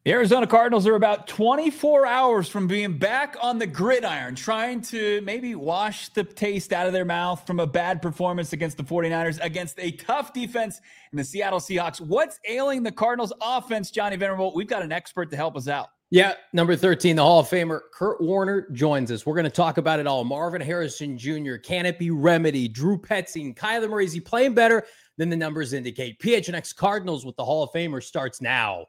The Arizona Cardinals are about 24 hours from being back on the gridiron, trying to maybe wash the taste out of their mouth from a bad performance against the 49ers, against a tough defense in the Seattle Seahawks. What's ailing the Cardinals offense, Johnny Venerable? We've got an expert to help us out. Yeah, number 13, the Hall of Famer, Kurt Warner, joins us. We're going to talk about it all. Marvin Harrison Jr., can it be remedied? Drew Petzing, Kyler Murray, is he playing better than the numbers indicate? PHNX Cardinals with the Hall of Famer starts now.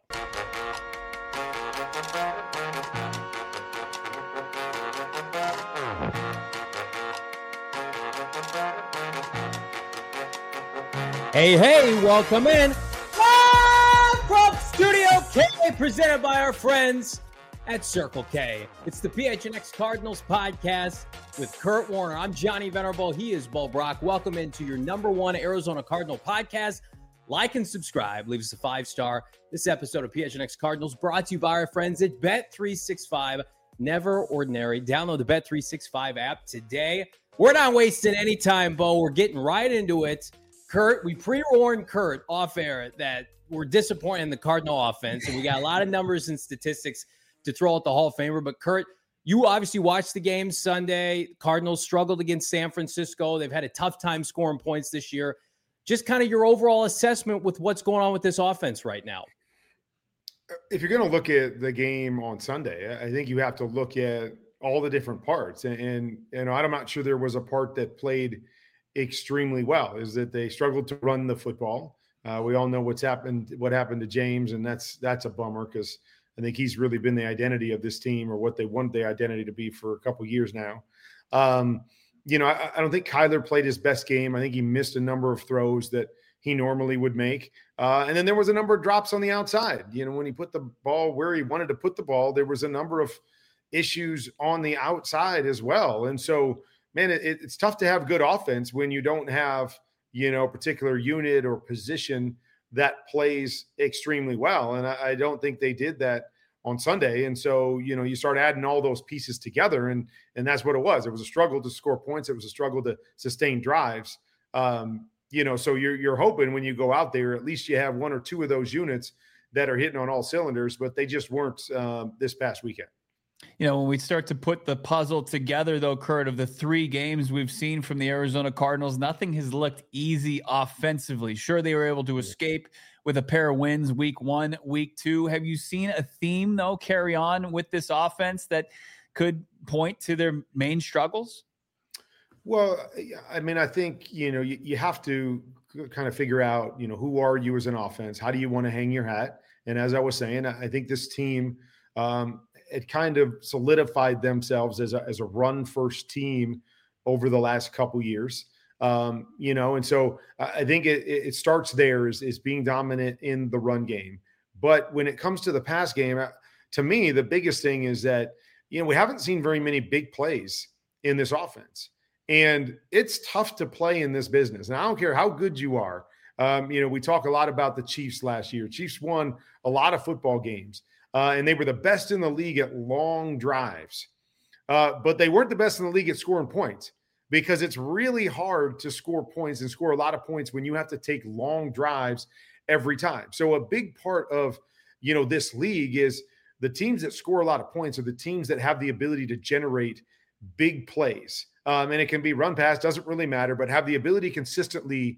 Hey, welcome in. Live from Studio K, presented by our friends at Circle K. It's the PHNX Cardinals podcast with Kurt Warner. I'm Johnny Venerable. He is Bo Brock. Welcome into your number one Arizona Cardinal podcast. Like and subscribe. Leave us a 5-star. This episode of PHNX Cardinals brought to you by our friends at Bet365. Never ordinary. Download the Bet365 app today. We're not wasting any time, Bo. We're getting right into it. Kurt, we pre-warned Kurt off air that we're disappointed in the Cardinal offense, and we got a lot of numbers and statistics to throw at the Hall of Famer. But Kurt, you obviously watched the game Sunday. Cardinals struggled against San Francisco. They've had a tough time scoring points this year. Just kind of your overall assessment with what's going on with this offense right now. If you're going to look at the game on Sunday, I think you have to look at all the different parts. And I'm not sure there was a part that played extremely well, is that they struggled to run the football. We all know what happened to James, and that's a bummer because I think he's really been the identity of this team, or what they want the identity to be, for a couple of years now. I don't think Kyler played his best game. I think he missed a number of throws that he normally would make. And then there was a number of drops on the outside. When he put the ball where he wanted to put the ball, there was a number of issues on the outside as well. And so, man, it's tough to have good offense when you don't have, a particular unit or position that plays extremely well. And I don't think they did that on Sunday. And so, you start adding all those pieces together, and that's what it was. It was a struggle to score points. It was a struggle to sustain drives. So you're hoping when you go out there, at least you have one or two of those units that are hitting on all cylinders, but they just weren't this past weekend. When we start to put the puzzle together, though, Kurt, of the 3 games we've seen from the Arizona Cardinals, nothing has looked easy offensively. Sure, they were able to escape with a pair of wins week 1, week 2. Have you seen a theme, though, carry on with this offense that could point to their main struggles? Well, I mean, I think, you have to kind of figure out, who are you as an offense? How do you want to hang your hat? And as I was saying, I think this team, it kind of solidified themselves as a run-first team over the last couple years, and so I think it starts there is being dominant in the run game. But when it comes to the pass game, to me, the biggest thing is that, we haven't seen very many big plays in this offense. And it's tough to play in this business. And I don't care how good you are. We talk a lot about the Chiefs last year. Chiefs won a lot of football games. And they were the best in the league at long drives. But they weren't the best in the league at scoring points, because it's really hard to score points and score a lot of points when you have to take long drives every time. So a big part of, this league is the teams that score a lot of points are the teams that have the ability to generate big plays. And it can be run pass, doesn't really matter, but have the ability consistently,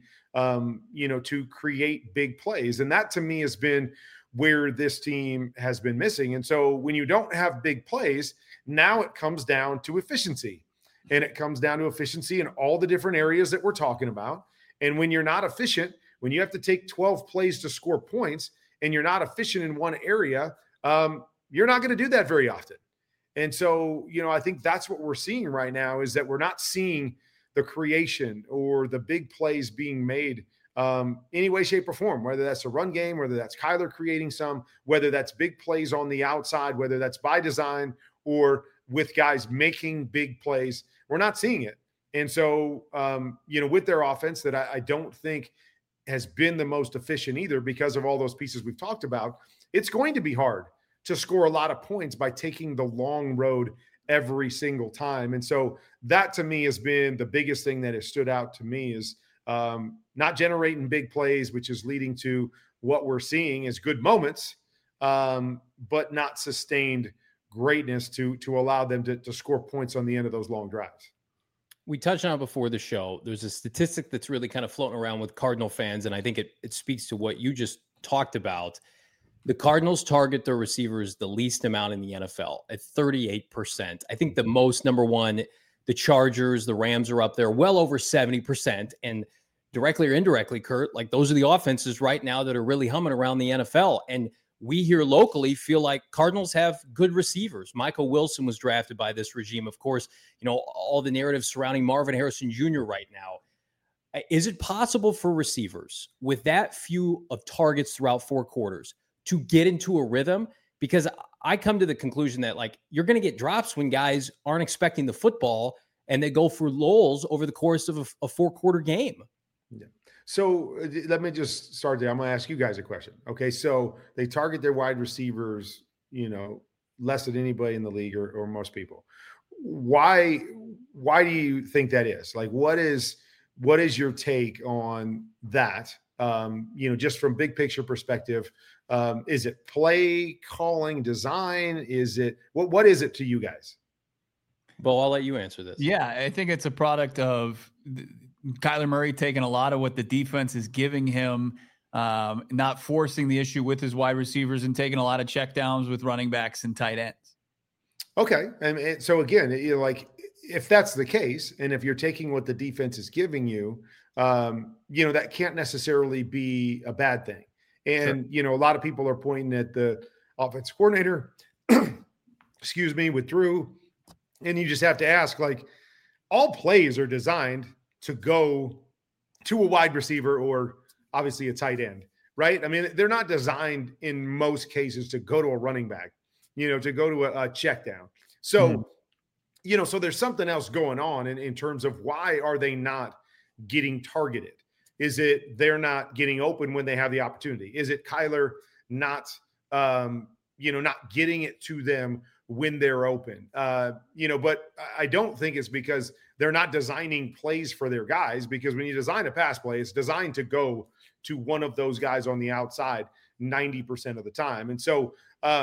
to create big plays. And that, to me, has been where this team has been missing. And so when you don't have big plays, now it comes down to efficiency. And it comes down to efficiency in all the different areas that we're talking about. And when you're not efficient, when you have to take 12 plays to score points and you're not efficient in one area, you're not going to do that very often. And so, I think that's what we're seeing right now, is that we're not seeing the creation or the big plays being made any way, shape, or form, whether that's a run game, whether that's Kyler creating some, whether that's big plays on the outside, whether that's by design or with guys making big plays. We're not seeing it. And so, with their offense that I don't think has been the most efficient either, because of all those pieces we've talked about, it's going to be hard to score a lot of points by taking the long road every single time. And so that, to me, has been the biggest thing that has stood out to me, is not generating big plays, which is leading to what we're seeing as good moments, but not sustained greatness to allow them to score points on the end of those long drives. We touched on it before the show. There's a statistic that's really kind of floating around with Cardinal fans, and I think it speaks to what you just talked about. The Cardinals target their receivers the least amount in the NFL at 38%. I think the most, number one, the Chargers, the Rams are up there well over 70%. And directly or indirectly, Kurt, like those are the offenses right now that are really humming around the NFL. And we here locally feel like Cardinals have good receivers. Michael Wilson was drafted by this regime. Of course, you know, all the narratives surrounding Marvin Harrison Jr. right now. Is it possible for receivers with that few of targets throughout 4 quarters to get into a rhythm? Because I come to the conclusion that like you're going to get drops when guys aren't expecting the football and they go for lulls over the course of a 4-quarter game. Yeah. So let me just start there. I'm going to ask you guys a question. Okay. So they target their wide receivers, you know, less than anybody in the league or most people. Why do you think that is? Like, what is your take on that? You know, just from big picture perspective, is it play calling, design? Is it, what is it to you guys? Well, I'll let you answer this. Yeah, I think it's a product of Kyler Murray taking a lot of what the defense is giving him, not forcing the issue with his wide receivers and taking a lot of checkdowns with running backs and tight ends. Okay. And so again, you know, like if that's the case, and if you're taking what the defense is giving you, you know, that can't necessarily be a bad thing. And, you know, a lot of people are pointing at the offensive coordinator, excuse me, with Drew. And you just have to ask, like, all plays are designed to go to a wide receiver or obviously a tight end, right? I mean, they're not designed in most cases to go to a running back, you know, to go to a check down. So, you know, so there's something else going on in terms of why are they not getting targeted? Is it they're not getting open when they have the opportunity? Is it Kyler not, you know, not getting it to them when they're open? You know, but I don't think it's because they're not designing plays for their guys, because when you design a pass play, it's designed to go to one of those guys on the outside 90% of the time. And so,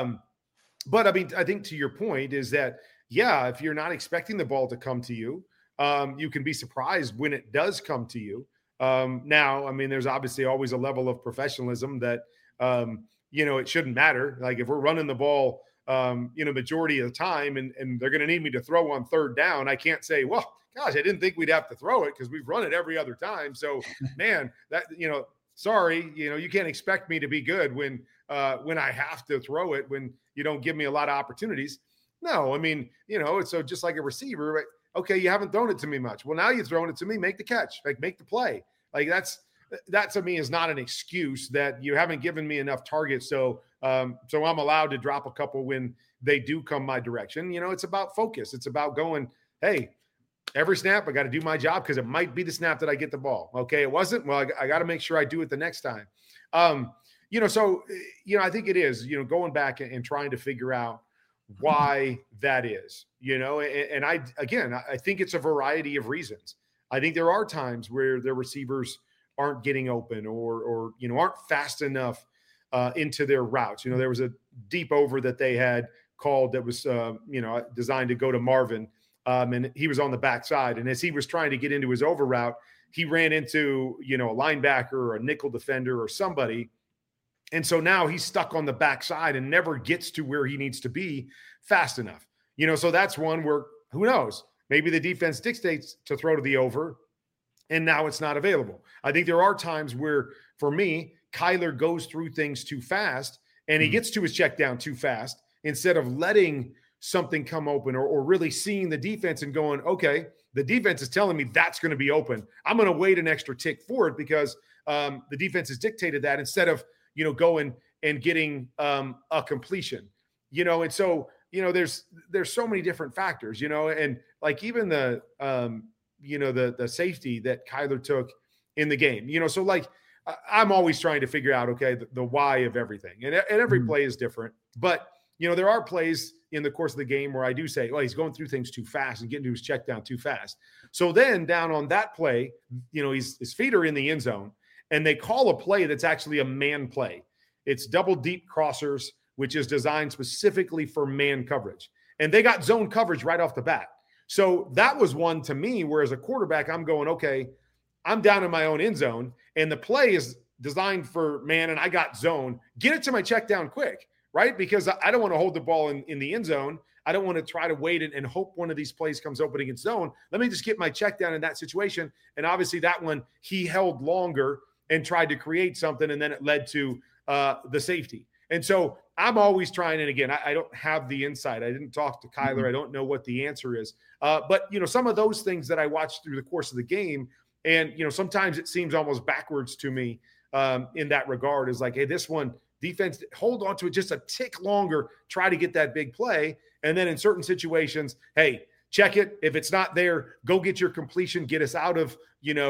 but I mean, I think to your point is that, yeah, if you're not expecting the ball to come to you, you can be surprised when it does come to you. Now, I mean, there's obviously always a level of professionalism that, you know, it shouldn't matter. Like if we're running the ball, you know, majority of the time and they're going to need me to throw on 3rd down, I can't say, well, gosh, I didn't think we'd have to throw it because we've run it every other time. So, man, that, you know, sorry, you know, you can't expect me to be good when I have to throw it, when you don't give me a lot of opportunities. No, I mean, you know, it's so just like a receiver, right? Okay, you haven't thrown it to me much. Well, now you're throwing it to me, make the catch, like make the play. Like that to me is not an excuse that you haven't given me enough targets. So I'm allowed to drop a couple when they do come my direction. You know, it's about focus. It's about going, hey, every snap, I got to do my job because it might be the snap that I get the ball. Okay, it wasn't. Well, I got to make sure I do it the next time. You know, so, you know, I think it is, you know, going back and trying to figure out why that is, you know, and I think it's a variety of reasons. I think there are times where their receivers aren't getting open or, you know, aren't fast enough into their routes. You know, there was a deep over that they had called that was, you know, designed to go to Marvin. And he was on the backside. And as he was trying to get into his over route, he ran into, you know, a linebacker or a nickel defender or somebody. And so now he's stuck on the backside and never gets to where he needs to be fast enough. You know, so that's one where, who knows, maybe the defense dictates to throw to the over and now it's not available. I think there are times where, for me, Kyler goes through things too fast and he gets to his check down too fast instead of letting something come open or really seeing the defense and going, okay, the defense is telling me that's going to be open. I'm going to wait an extra tick for it because the defense has dictated that, instead of, you know, going and getting a completion, you know. And so, you know, there's so many different factors, you know, and like even the, you know, the safety that Kyler took in the game, you know, so like I'm always trying to figure out, okay, the why of everything, and every play is different, but you know, there are plays in the course of the game where I do say, well, he's going through things too fast and getting to his check down too fast. So then down on that play, you know, his feet are in the end zone and they call a play that's actually a man play. It's double deep crossers which is designed specifically for man coverage. And they got zone coverage right off the bat. So that was one to me where as a quarterback, I'm going, okay, I'm down in my own end zone and the play is designed for man and I got zone. Get it to my check down quick, right? Because I don't want to hold the ball in the end zone. I don't want to try to wait and hope one of these plays comes open against zone. Let me just get my check down in that situation. And obviously that one, he held longer and tried to create something, and then it led to the safety. And so I'm always trying, and again, I don't have the insight. I didn't talk to Kyler. I don't know what the answer is. But, some of those things that I watched through the course of the game, and, sometimes it seems almost backwards to me in that regard, is like, hey, this one, defense, hold on to it just a tick longer, try to get that big play. And then in certain situations, hey, check it. If it's not there, go get your completion, get us out of,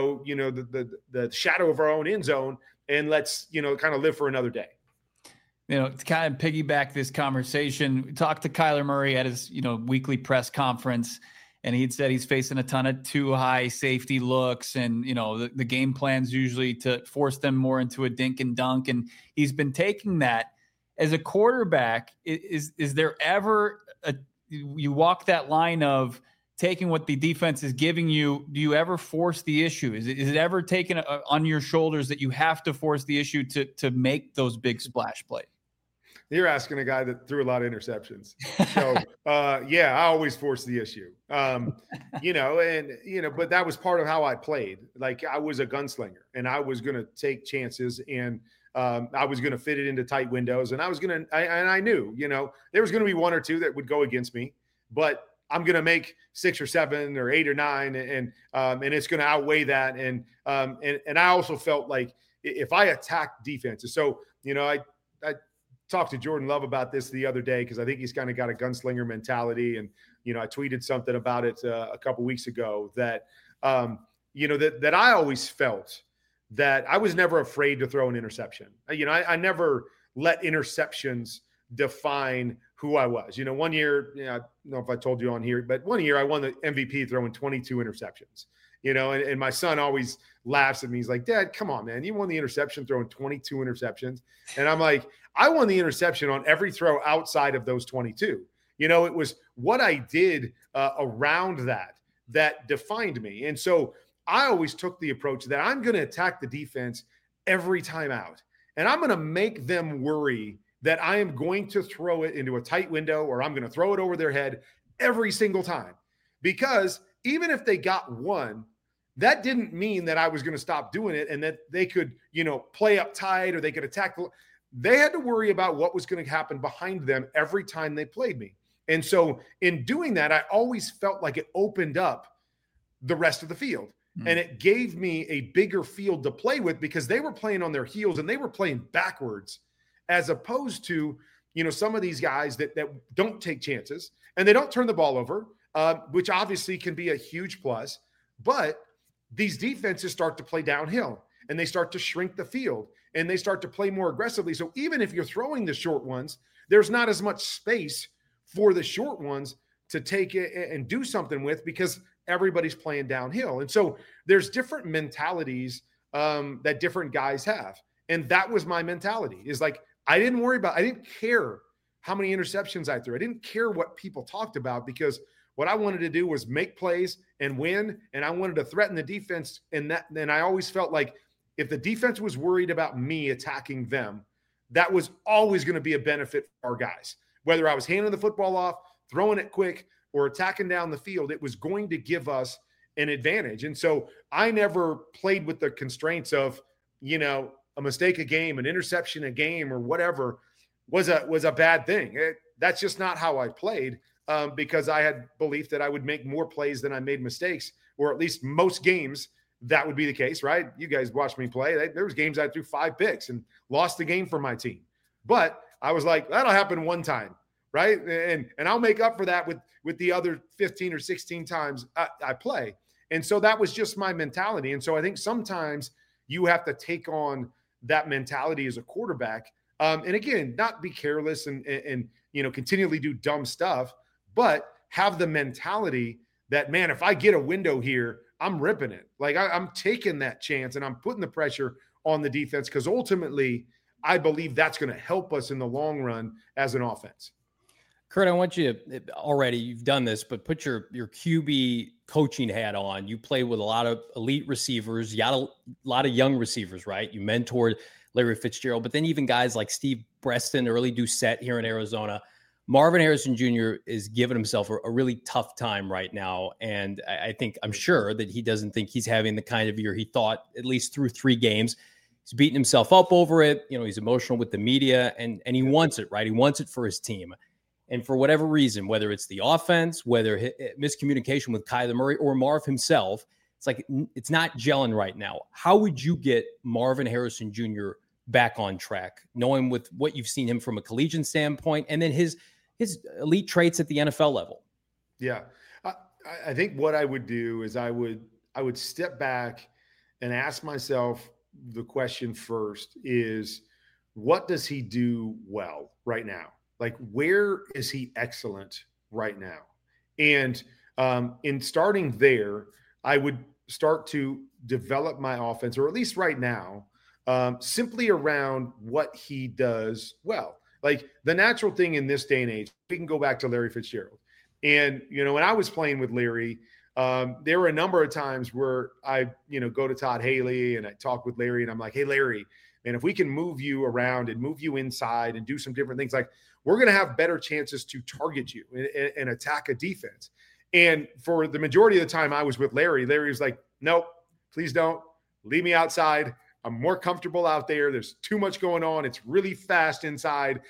the shadow of our own end zone, and let's, kind of live for another day. To kind of piggyback this conversation, we talked to Kyler Murray at his, weekly press conference, and he'd said he's facing a ton of too high safety looks, and, the game plan's usually to force them more into a dink and dunk. And he's been taking that as a quarterback. Is there ever you walk that line of taking what the defense is giving you? Do you ever force the issue? Is it ever taken on your shoulders that you have to force the issue to make those big splash plays? You're asking a guy that threw a lot of interceptions. So, I always force the issue, but that was part of how I played. Like, I was a gunslinger and I was going to take chances, and I was going to fit it into tight windows, and I knew, there was going to be one or two that would go against me, but I'm going to make 6 or 7 or 8 or 9. And it's going to outweigh that. And I also felt like if I attack defenses, so, I talked to Jordan Love about this the other day, because I think he's kind of got a gunslinger mentality. And, I tweeted something about it a couple weeks ago that, that I always felt that I was never afraid to throw an interception. I never let interceptions define who I was. One year, I don't know if I told you on here, but one year I won the MVP throwing 22 interceptions, and my son always laughs at me. He's like, Dad, come on, man. You won the interception throwing 22 interceptions. And I'm like, I won the interception on every throw outside of those 22. It was what I did around that defined me. And so I always took the approach that I'm going to attack the defense every time out. And I'm going to make them worry that I am going to throw it into a tight window, or I'm going to throw it over their head every single time. Because even if they got one, that didn't mean that I was going to stop doing it and that they could, play up tight or they could attack. They had to worry about what was going to happen behind them every time they played me. And so in doing that, I always felt like it opened up the rest of the field. And it gave me a bigger field to play with, because they were playing on their heels and they were playing backwards, as opposed to, some of these guys that don't take chances and they don't turn the ball over, which obviously can be a huge plus. But these defenses start to play downhill and they start to shrink the field and they start to play more aggressively. So even if you're throwing the short ones, there's not as much space for the short ones to take it and do something with, because everybody's playing downhill. And so there's different mentalities that different guys have. And that was my mentality, is like, I didn't care how many interceptions I threw. I didn't care what people talked about, because what I wanted to do was make plays and win. And I wanted to threaten the defense. And I always felt like if the defense was worried about me attacking them, that was always going to be a benefit for our guys. Whether I was handing the football off, throwing it quick, or attacking down the field, it was going to give us an advantage. And so I never played with the constraints of, a mistake a game, an interception a game, or whatever was a bad thing. That's just not how I played, because I had belief that I would make more plays than I made mistakes, or at least most games that would be the case, right? You guys watched me play. There was games I threw 5 picks and lost the game for my team. But I was like, that'll happen one time, right? And I'll make up for that with the other 15 or 16 times I play. And so that was just my mentality. And so I think sometimes you have to take on that mentality as a quarterback. And again, not be careless and continually do dumb stuff, but have the mentality that, man, if I get a window here, I'm ripping it. Like I'm taking that chance and I'm putting the pressure on the defense, because ultimately I believe that's going to help us in the long run as an offense. Kurt, I want you to, already you've done this, but put your QB coaching hat on. You played with a lot of elite receivers. You got a lot of young receivers, right? You mentored Larry Fitzgerald, but then even guys like Steve Breaston, early Doucette here in Arizona. Marvin Harrison Jr. is giving himself a really tough time right now. And I'm sure that he doesn't think he's having the kind of year he thought, at least through 3 games. He's beating himself up over it. He's emotional with the media and he wants it, right? He wants it for his team. And for whatever reason, whether it's the offense, whether miscommunication with Kyler Murray or Marv himself, it's like it's not gelling right now. How would you get Marvin Harrison Jr. back on track, knowing with what you've seen him from a collegiate standpoint and then his elite traits at the NFL level? Yeah. I think what I would do is I would step back and ask myself the question first is, what does he do well right now? Like, where is he excellent right now? And in starting there, I would start to develop my offense, or at least right now, simply around what he does well. Like, the natural thing in this day and age, we can go back to Larry Fitzgerald. And, when I was playing with Larry, there were a number of times where I, go to Todd Haley and I talk with Larry and I'm like, hey, Larry, man, if we can move you around and move you inside and do some different things, like, we're going to have better chances to target you and attack a defense. And for the majority of the time I was with Larry was like, nope, please don't. Leave me outside. I'm more comfortable out there. There's too much going on. It's really fast inside.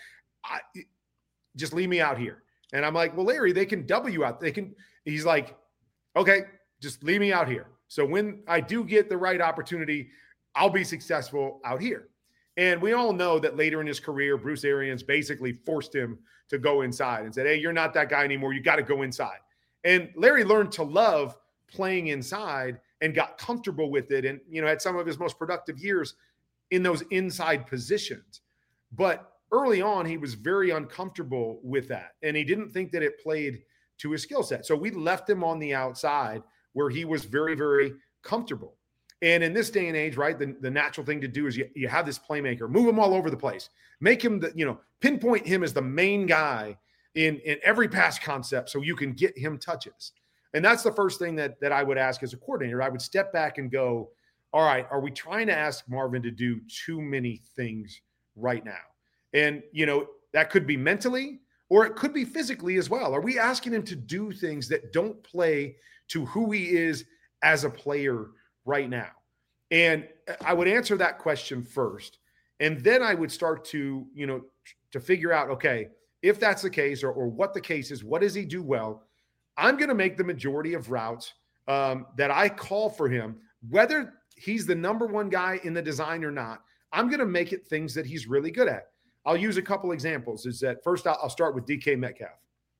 Just leave me out here. And I'm like, well, Larry, they can double you out. He's like, okay, just leave me out here. So when I do get the right opportunity, I'll be successful out here. And we all know that later in his career, Bruce Arians basically forced him to go inside and said, hey, you're not that guy anymore. You got to go inside. And Larry learned to love playing inside and got comfortable with it. And, had some of his most productive years in those inside positions. But early on, he was very uncomfortable with that. And he didn't think that it played to his skill set. So we left him on the outside where he was very, very comfortable. And in this day and age, right, the natural thing to do is you have this playmaker, move him all over the place, make him pinpoint him as the main guy in every pass concept so you can get him touches. And that's the first thing that I would ask as a coordinator. I would step back and go, all right, are we trying to ask Marvin to do too many things right now? And, that could be mentally or it could be physically as well. Are we asking him to do things that don't play to who he is as a player right now? And I would answer that question first. And then I would start to, to figure out, okay, if that's the case or what the case is, what does he do well? I'm going to make the majority of routes that I call for him, whether he's the number one guy in the design or not, I'm going to make it things that he's really good at. I'll use a couple examples. Is that first, I'll start with DK Metcalf.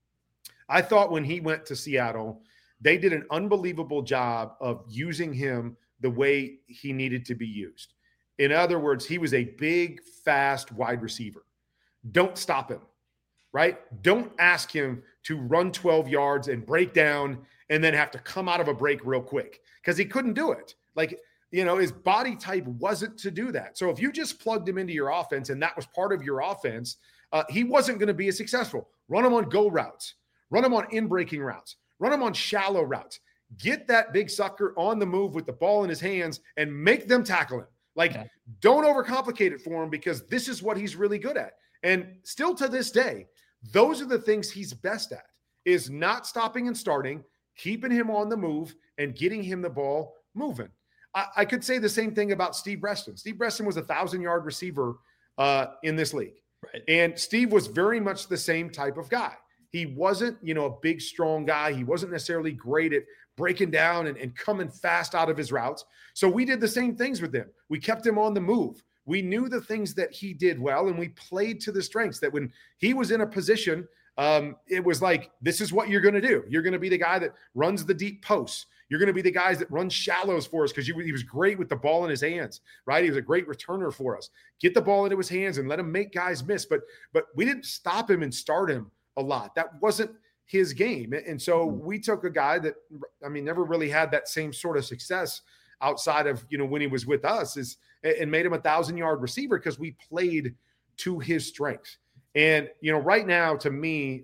I thought when he went to Seattle, they did an unbelievable job of using him the way he needed to be used. In other words, he was a big, fast wide receiver. Don't stop him, right? Don't ask him to run 12 yards and break down and then have to come out of a break real quick because he couldn't do it. Like, his body type wasn't to do that. So if you just plugged him into your offense and that was part of your offense, he wasn't going to be as successful. Run him on go routes, run him on in-breaking routes, run him on shallow routes. Get that big sucker on the move with the ball in his hands and make them tackle him. Don't overcomplicate it for him because this is what he's really good at. And still to this day, those are the things he's best at, is not stopping and starting, keeping him on the move and getting him the ball moving. I could say the same thing about Steve Breaston. Steve Breaston was a 1,000-yard receiver in this league. Right. And Steve was very much the same type of guy. He wasn't, a big, strong guy. He wasn't necessarily great at breaking down and coming fast out of his routes. So we did the same things with him. We kept him on the move. We knew the things that he did well, and we played to the strengths that when he was in a position, it was like, this is what you're going to do. You're going to be the guy that runs the deep posts. You're going to be the guys that run shallows for us because he was great with the ball in his hands, right? He was a great returner for us. Get the ball into his hands and let him make guys miss. But we didn't stop him and start him a lot. That wasn't his game. And so we took a guy that, never really had that same sort of success outside of, when he was with us, and made him 1,000-yard receiver because we played to his strengths. And, right now, to me,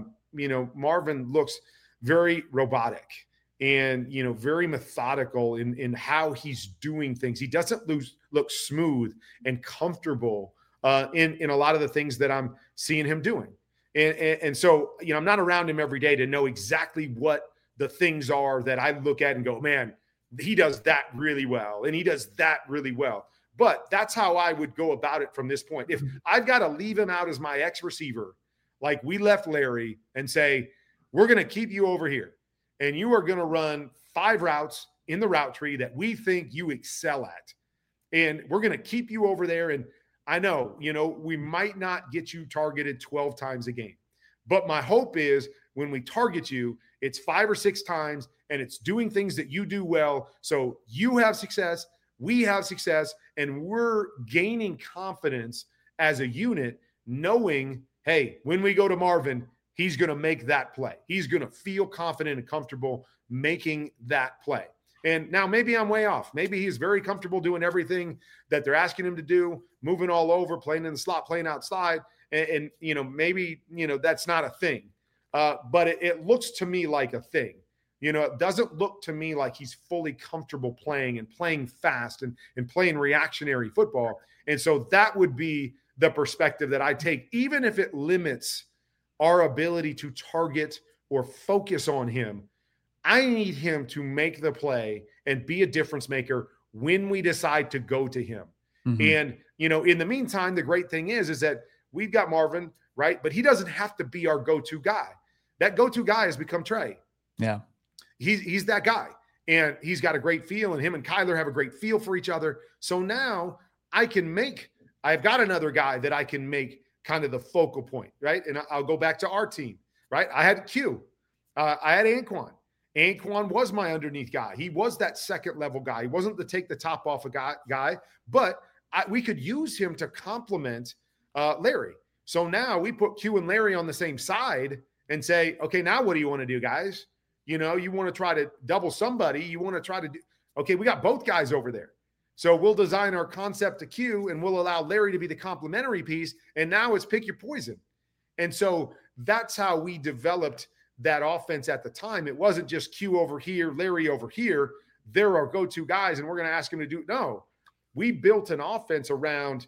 Marvin looks very robotic and, very methodical in how he's doing things. He doesn't look smooth and comfortable in a lot of the things that I'm seeing him doing. And so, I'm not around him every day to know exactly what the things are that I look at and go, man, he does that really well. And he does that really well. But that's how I would go about it from this point. If I've got to leave him out as my X receiver, like we left Larry, and say, we're going to keep you over here and you are going to run 5 routes in the route tree that we think you excel at. And we're going to keep you over there. And I know, we might not get you targeted 12 times a game, but my hope is when we target you, it's 5 or 6 times and it's doing things that you do well. So you have success, we have success, and we're gaining confidence as a unit, knowing, hey, when we go to Marvin, he's going to make that play. He's going to feel confident and comfortable making that play. And now maybe I'm way off. Maybe he's very comfortable doing everything that they're asking him to do, moving all over, playing in the slot, playing outside. And maybe, that's not a thing. But it looks to me like a thing. It doesn't look to me like he's fully comfortable playing and playing fast and playing reactionary football. And so that would be the perspective that I take, even if it limits our ability to target or focus on him. I need him to make the play and be a difference maker when we decide to go to him. Mm-hmm. And, in the meantime, the great thing is that we've got Marvin, right? But he doesn't have to be our go-to guy. That go-to guy has become Trey. Yeah. He's that guy. And he's got a great feel, and him and Kyler have a great feel for each other. So now I've got another guy that I can make kind of the focal point, right? And I'll go back to our team, right? I had Q. I had Anquan. Anquan was my underneath guy. He was that second level guy. He wasn't the take the top off a guy, but we could use him to complement Larry. So now we put Q and Larry on the same side and say, okay, now what do you want to do, guys? You want to try to double somebody. You want to try to do, okay, we got both guys over there. So we'll design our concept to Q and we'll allow Larry to be the complementary piece. And now it's pick your poison. And so that's how we developed that offense at the time. It wasn't just Q over here, Larry over here. They're our go-to guys, and we're going to ask him to do it. No, we built an offense around,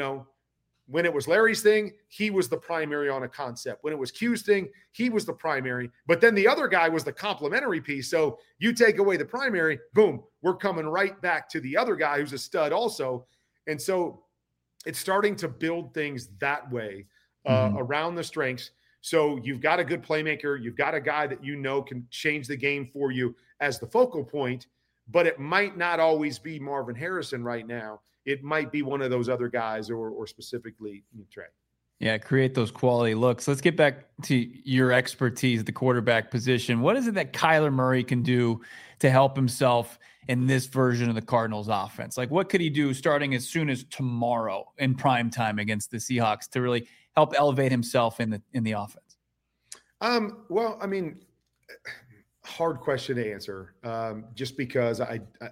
when it was Larry's thing, he was the primary on a concept. When it was Q's thing, he was the primary. But then the other guy was the complementary piece. So you take away the primary, boom, we're coming right back to the other guy who's a stud also. And so it's starting to build things that way around the strengths. So you've got a good playmaker. You've got a guy that can change the game for you as the focal point, but it might not always be Marvin Harrison right now. It might be one of those other guys or specifically Trey. Yeah, create those quality looks. Let's get back to your expertise at the quarterback position. What is it that Kyler Murray can do to help himself in this version of the Cardinals offense? Like, what could he do starting as soon as tomorrow in prime time against the Seahawks to really help elevate himself in the offense? Well, I mean, hard question to answer, just because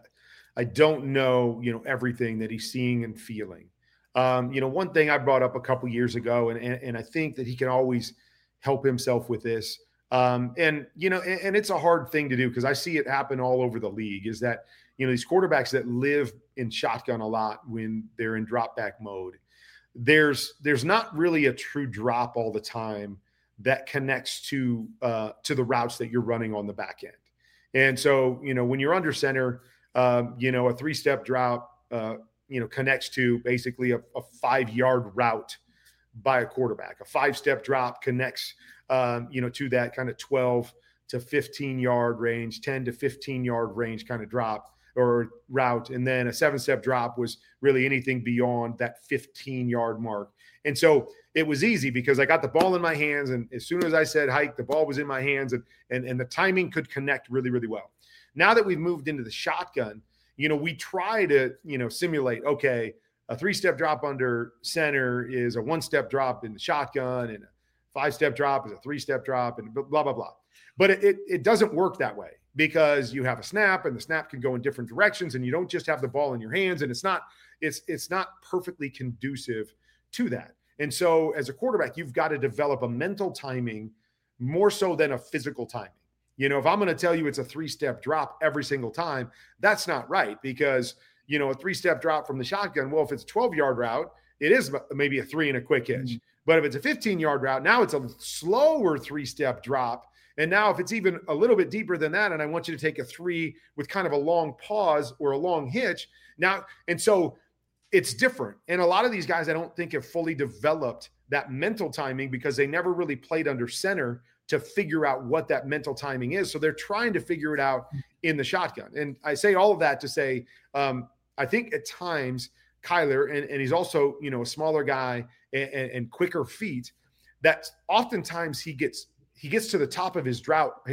I don't know, everything that he's seeing and feeling. One thing I brought up a couple years ago, and I think that he can always help himself with this. And it's a hard thing to do because I see it happen all over the league, is that, these quarterbacks that live in shotgun a lot when they're in drop back mode, there's not really a true drop all the time that connects to the routes that you're running on the back end. And so, when you're under center, a 3-step drop, connects to basically a 5-yard route by a quarterback. A 5-step drop connects, to that kind of 12 to 15-yard range, 10 to 15-yard range kind of drop or route. And then a 7-step drop was really anything beyond that 15-yard mark. And so it was easy because I got the ball in my hands, and as soon as I said hike, the ball was in my hands, and the timing could connect really, really well. Now that we've moved into the shotgun, we try to, simulate, okay, a 3-step drop under center is a 1-step drop in the shotgun, and a 5-step drop is a 3-step drop, and blah, blah, blah. But it doesn't work that way because you have a snap, and the snap can go in different directions, and you don't just have the ball in your hands, and it's not it's not perfectly conducive to that. And so as a quarterback, you've got to develop a mental timing more so than a physical timing. You know, if I'm going to tell you it's a 3-step drop every single time, that's not right, because, you know, a 3-step drop from the shotgun, well, if it's a 12-yard route, it is maybe a 3 and a quick hitch. Mm-hmm. But if it's a 15-yard route, now it's a slower 3-step drop. And now if it's even a little bit deeper than that, and I want you to take a 3 with kind of a long pause or a long hitch now. And so it's different. And a lot of these guys, I don't think, have fully developed that mental timing because they never really played under center to figure out what that mental timing is. So they're trying to figure it out in the shotgun. And I say all of that to say, I think at times Kyler, and he's also, you know, a smaller guy and quicker feet, that oftentimes he gets to the top of his drop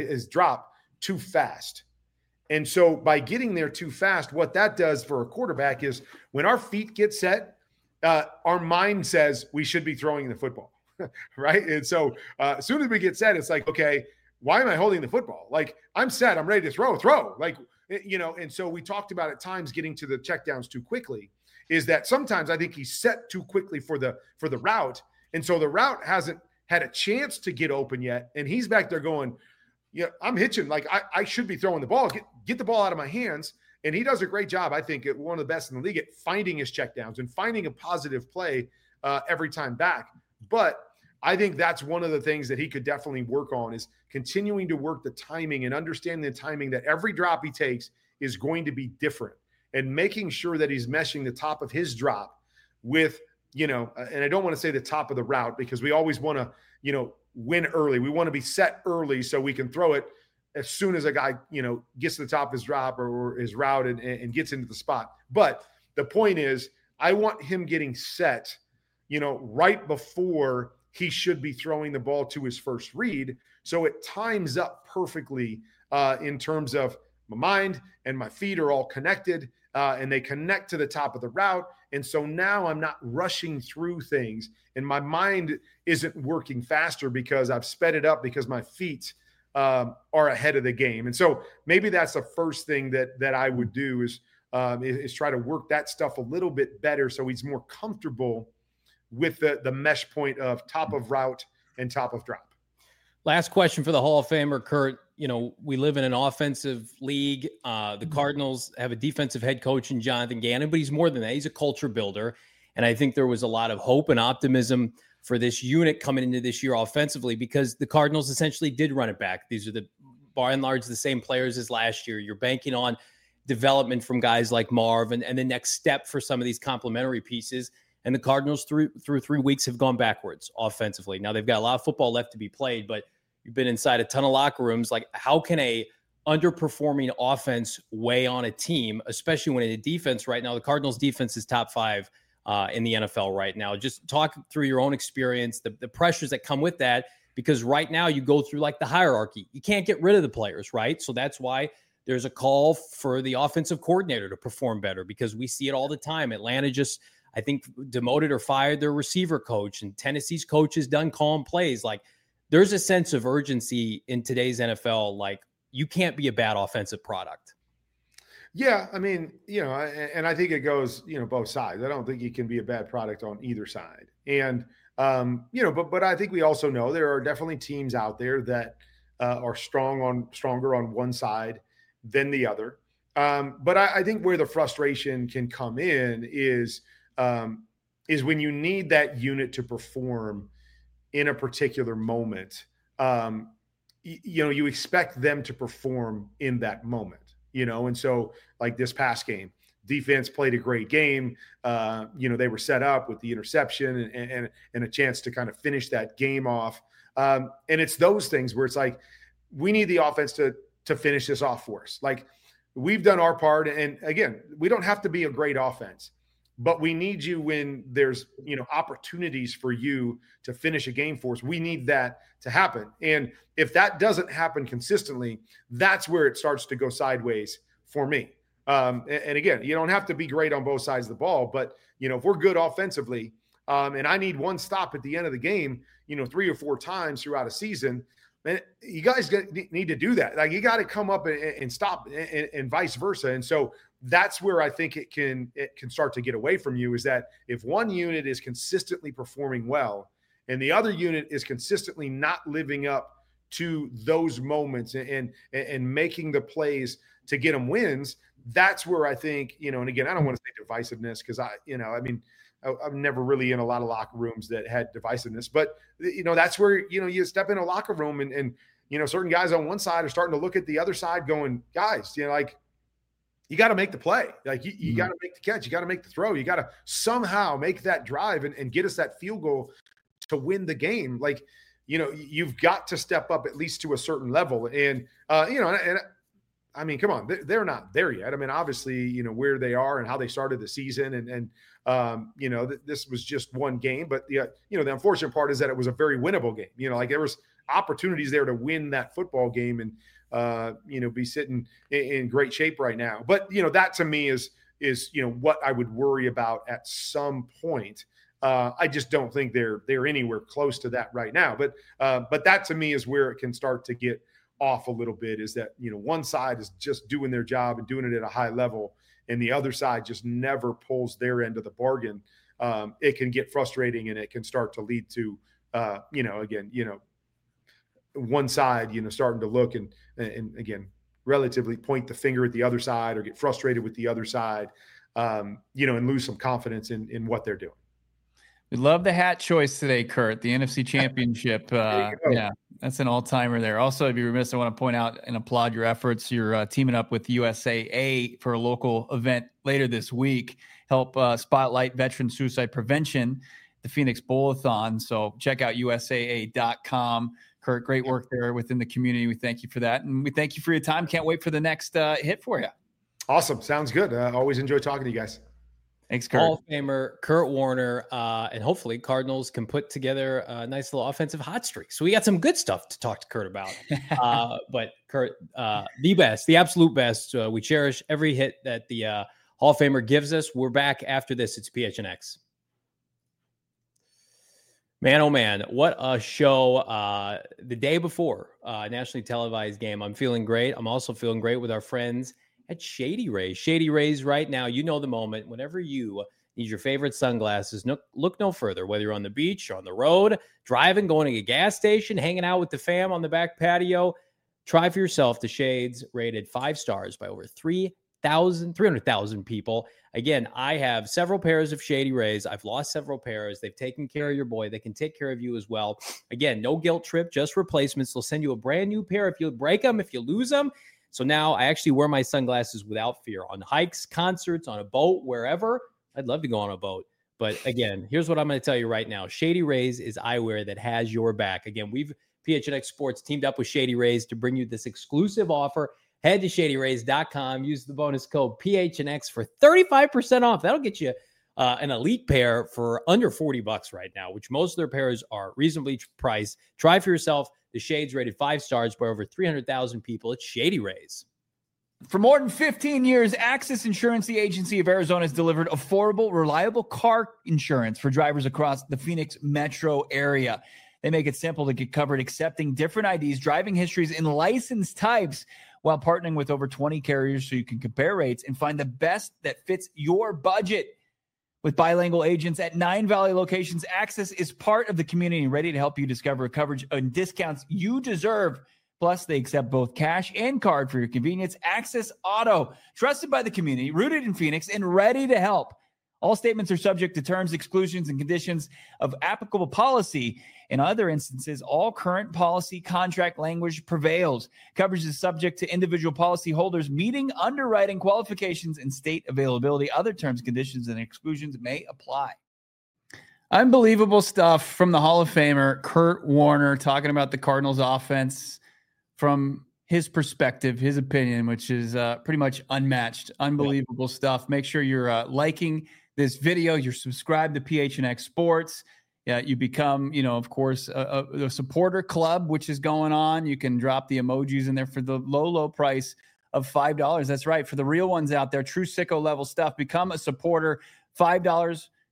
too fast. And so by getting there too fast, what that does for a quarterback is when our feet get set, our mind says we should be throwing the football, right? And so as soon as we get set, it's like, okay, why am I holding the football? Like, I'm set, I'm ready to throw. Like, you know, and so we talked about at times getting to the checkdowns too quickly, is that sometimes I think he's set too quickly for the route. And so the route hasn't had a chance to get open yet. And he's back there going, yeah, I'm hitching. Like, I should be throwing the ball, get the ball out of my hands. And he does a great job, I think, at one of the best in the league at finding his checkdowns and finding a positive play every time back. But I think that's one of the things that he could definitely work on, is continuing to work the timing and understanding the timing that every drop he takes is going to be different, and making sure that he's meshing the top of his drop with, you know, and I don't want to say the top of the route, because we always want to, you know, win early. We want to be set early so we can throw it as soon as a guy, you know, gets to the top of his drop or his route and gets into the spot. But the point is, I want him getting set, you know, right before he should be throwing the ball to his first read. So it times up perfectly in terms of my mind and my feet are all connected, and they connect to the top of the route. And so now I'm not rushing through things, and my mind isn't working faster because I've sped it up because my feet are ahead of the game. And so maybe that's the first thing that I would do is try to work that stuff a little bit better, so he's more comfortable with the mesh point of top of route and top of drop. Last question for the Hall of Famer, Kurt. You know, we live in an offensive league. The Cardinals have a defensive head coach in Jonathan Gannon, but he's more than that. He's a culture builder. And I think there was a lot of hope and optimism for this unit coming into this year offensively, because the Cardinals essentially did run it back. These are by and large the same players as last year. You're banking on development from guys like Marv and the next step for some of these complementary pieces. And the Cardinals through 3 weeks have gone backwards offensively. Now they've got a lot of football left to be played, but you've been inside a ton of locker rooms. Like, how can a underperforming offense weigh on a team, especially when in a defense right now? The Cardinals defense is top 5 in the NFL right now. Just talk through your own experience, the pressures that come with that, because right now you go through like the hierarchy. You can't get rid of the players, right? So that's why there's a call for the offensive coordinator to perform better, because we see it all the time. Atlanta just, I think, demoted or fired their receiver coach, and Tennessee's coach has done calm plays. Like, there's a sense of urgency in today's NFL. Like, you can't be a bad offensive product. Yeah, I mean, you know, and I think it goes, you know, both sides. I don't think you can be a bad product on either side. And, you know, but I think we also know there are definitely teams out there that are stronger on one side than the other. But I think where the frustration can come in is when you need that unit to perform in a particular moment. You know, you expect them to perform in that moment, you know? And so like this past game, defense played a great game. You know, they were set up with the interception and a chance to kind of finish that game off. And it's those things where it's like, we need the offense to finish this off for us. Like, we've done our part. And again, we don't have to be a great offense, but we need you when there's, you know, opportunities for you to finish a game for us. We need that to happen. And if that doesn't happen consistently, that's where it starts to go sideways for me. And again, you don't have to be great on both sides of the ball, but, you know, if we're good offensively, and I need one stop at the end of the game, you know, 3 or 4 times throughout a season, man, you guys need to do that. Like, you got to come up and stop, and vice versa. And so that's where I think it can start to get away from you, is that if one unit is consistently performing well and the other unit is consistently not living up to those moments and making the plays to get them wins, that's where I think, and again, I don't want to say divisiveness, because I'm never really in a lot of locker rooms that had divisiveness, but that's where, you step in a locker room and certain guys on one side are starting to look at the other side going, guys, you got to make the play. Like you got to make the catch. You got to make the throw. You got to somehow make that drive and get us that field goal to win the game. Like, you've got to step up at least to a certain level. And, and I mean, come on, they're not there yet. I mean, obviously, where they are and how they started the season and this was just one game, but the unfortunate part is that it was a very winnable game. There was opportunities there to win that football game and, be sitting in great shape right now. But, that to me is what I would worry about at some point. I just don't think they're anywhere close to that right now. But that to me is where it can start to get off a little bit, is that, one side is just doing their job and doing it at a high level, and the other side just never pulls their end of the bargain. It can get frustrating, and it can start to lead to, one side, starting to look and again, relatively point the finger at the other side or get frustrated with the other side, and lose some confidence in what they're doing. We love the hat choice today, Kurt. The NFC Championship. Yeah, that's an all-timer there. Also, I'd be remiss, I want to point out and applaud your efforts. You're teaming up with USAA for a local event later this week. Help spotlight veteran suicide prevention, the Phoenix Bowl-a-thon. So check out USAA.com. Kurt, great work there within the community. We thank you for that. And we thank you for your time. Can't wait for the next hit for you. Awesome. Sounds good. Always enjoy talking to you guys. Thanks, Kurt. Hall of Famer Kurt Warner, and hopefully Cardinals can put together a nice little offensive hot streak. So we got some good stuff to talk to Kurt about. But Kurt, the best, the absolute best. We cherish every hit that the Hall of Famer gives us. We're back after this. It's PHNX. Man, oh man, what a show. The day before nationally televised game. I'm feeling great. I'm also feeling great with our friends at Shady Rays. Shady Rays right now, you know the moment. Whenever you need your favorite sunglasses, look no further. Whether you're on the beach, or on the road, driving, going to a gas station, hanging out with the fam on the back patio, try for yourself the shades rated 5 stars by over 300,000 people. Again, I have several pairs of Shady Rays. I've lost several pairs. They've taken care of your boy. They can take care of you as well. Again, no guilt trip, just replacements. They'll send you a brand new pair if you break them, if you lose them. So now I actually wear my sunglasses without fear on hikes, concerts, on a boat, wherever. I'd love to go on a boat. But again, here's what I'm going to tell you right now. Shady Rays is eyewear that has your back. Again, PHNX Sports teamed up with Shady Rays to bring you this exclusive offer. Head to ShadyRays.com. Use the bonus code PHNX for 35% off. That'll get you an elite pair for under $40 right now, which most of their pairs are reasonably priced. Try for yourself. The shades rated 5 stars by over 300,000 people. It's Shady Rays. For more than 15 years, Access Insurance, the agency of Arizona, has delivered affordable, reliable car insurance for drivers across the Phoenix metro area. They make it simple to get covered, accepting different IDs, driving histories, and license types, while partnering with over 20 carriers so you can compare rates and find the best that fits your budget. With bilingual agents at 9 Valley locations, Access is part of the community and ready to help you discover coverage and discounts you deserve. Plus, they accept both cash and card for your convenience. Access Auto, trusted by the community, rooted in Phoenix, and ready to help. All statements are subject to terms, exclusions, and conditions of applicable policy. In other instances, all current policy contract language prevails. Coverage is subject to individual policy holders meeting underwriting qualifications and state availability. Other terms, conditions, and exclusions may apply. Unbelievable stuff from the Hall of Famer, Kurt Warner, talking about the Cardinals offense from his perspective, his opinion, which is pretty much unmatched. Unbelievable stuff. Make sure you're liking this video. You're subscribed to PHNX Sports. Yeah, you become, of course, a supporter club, which is going on. You can drop the emojis in there for the low price of $5. That's right. For the real ones out there, true sicko level stuff, become a supporter. $5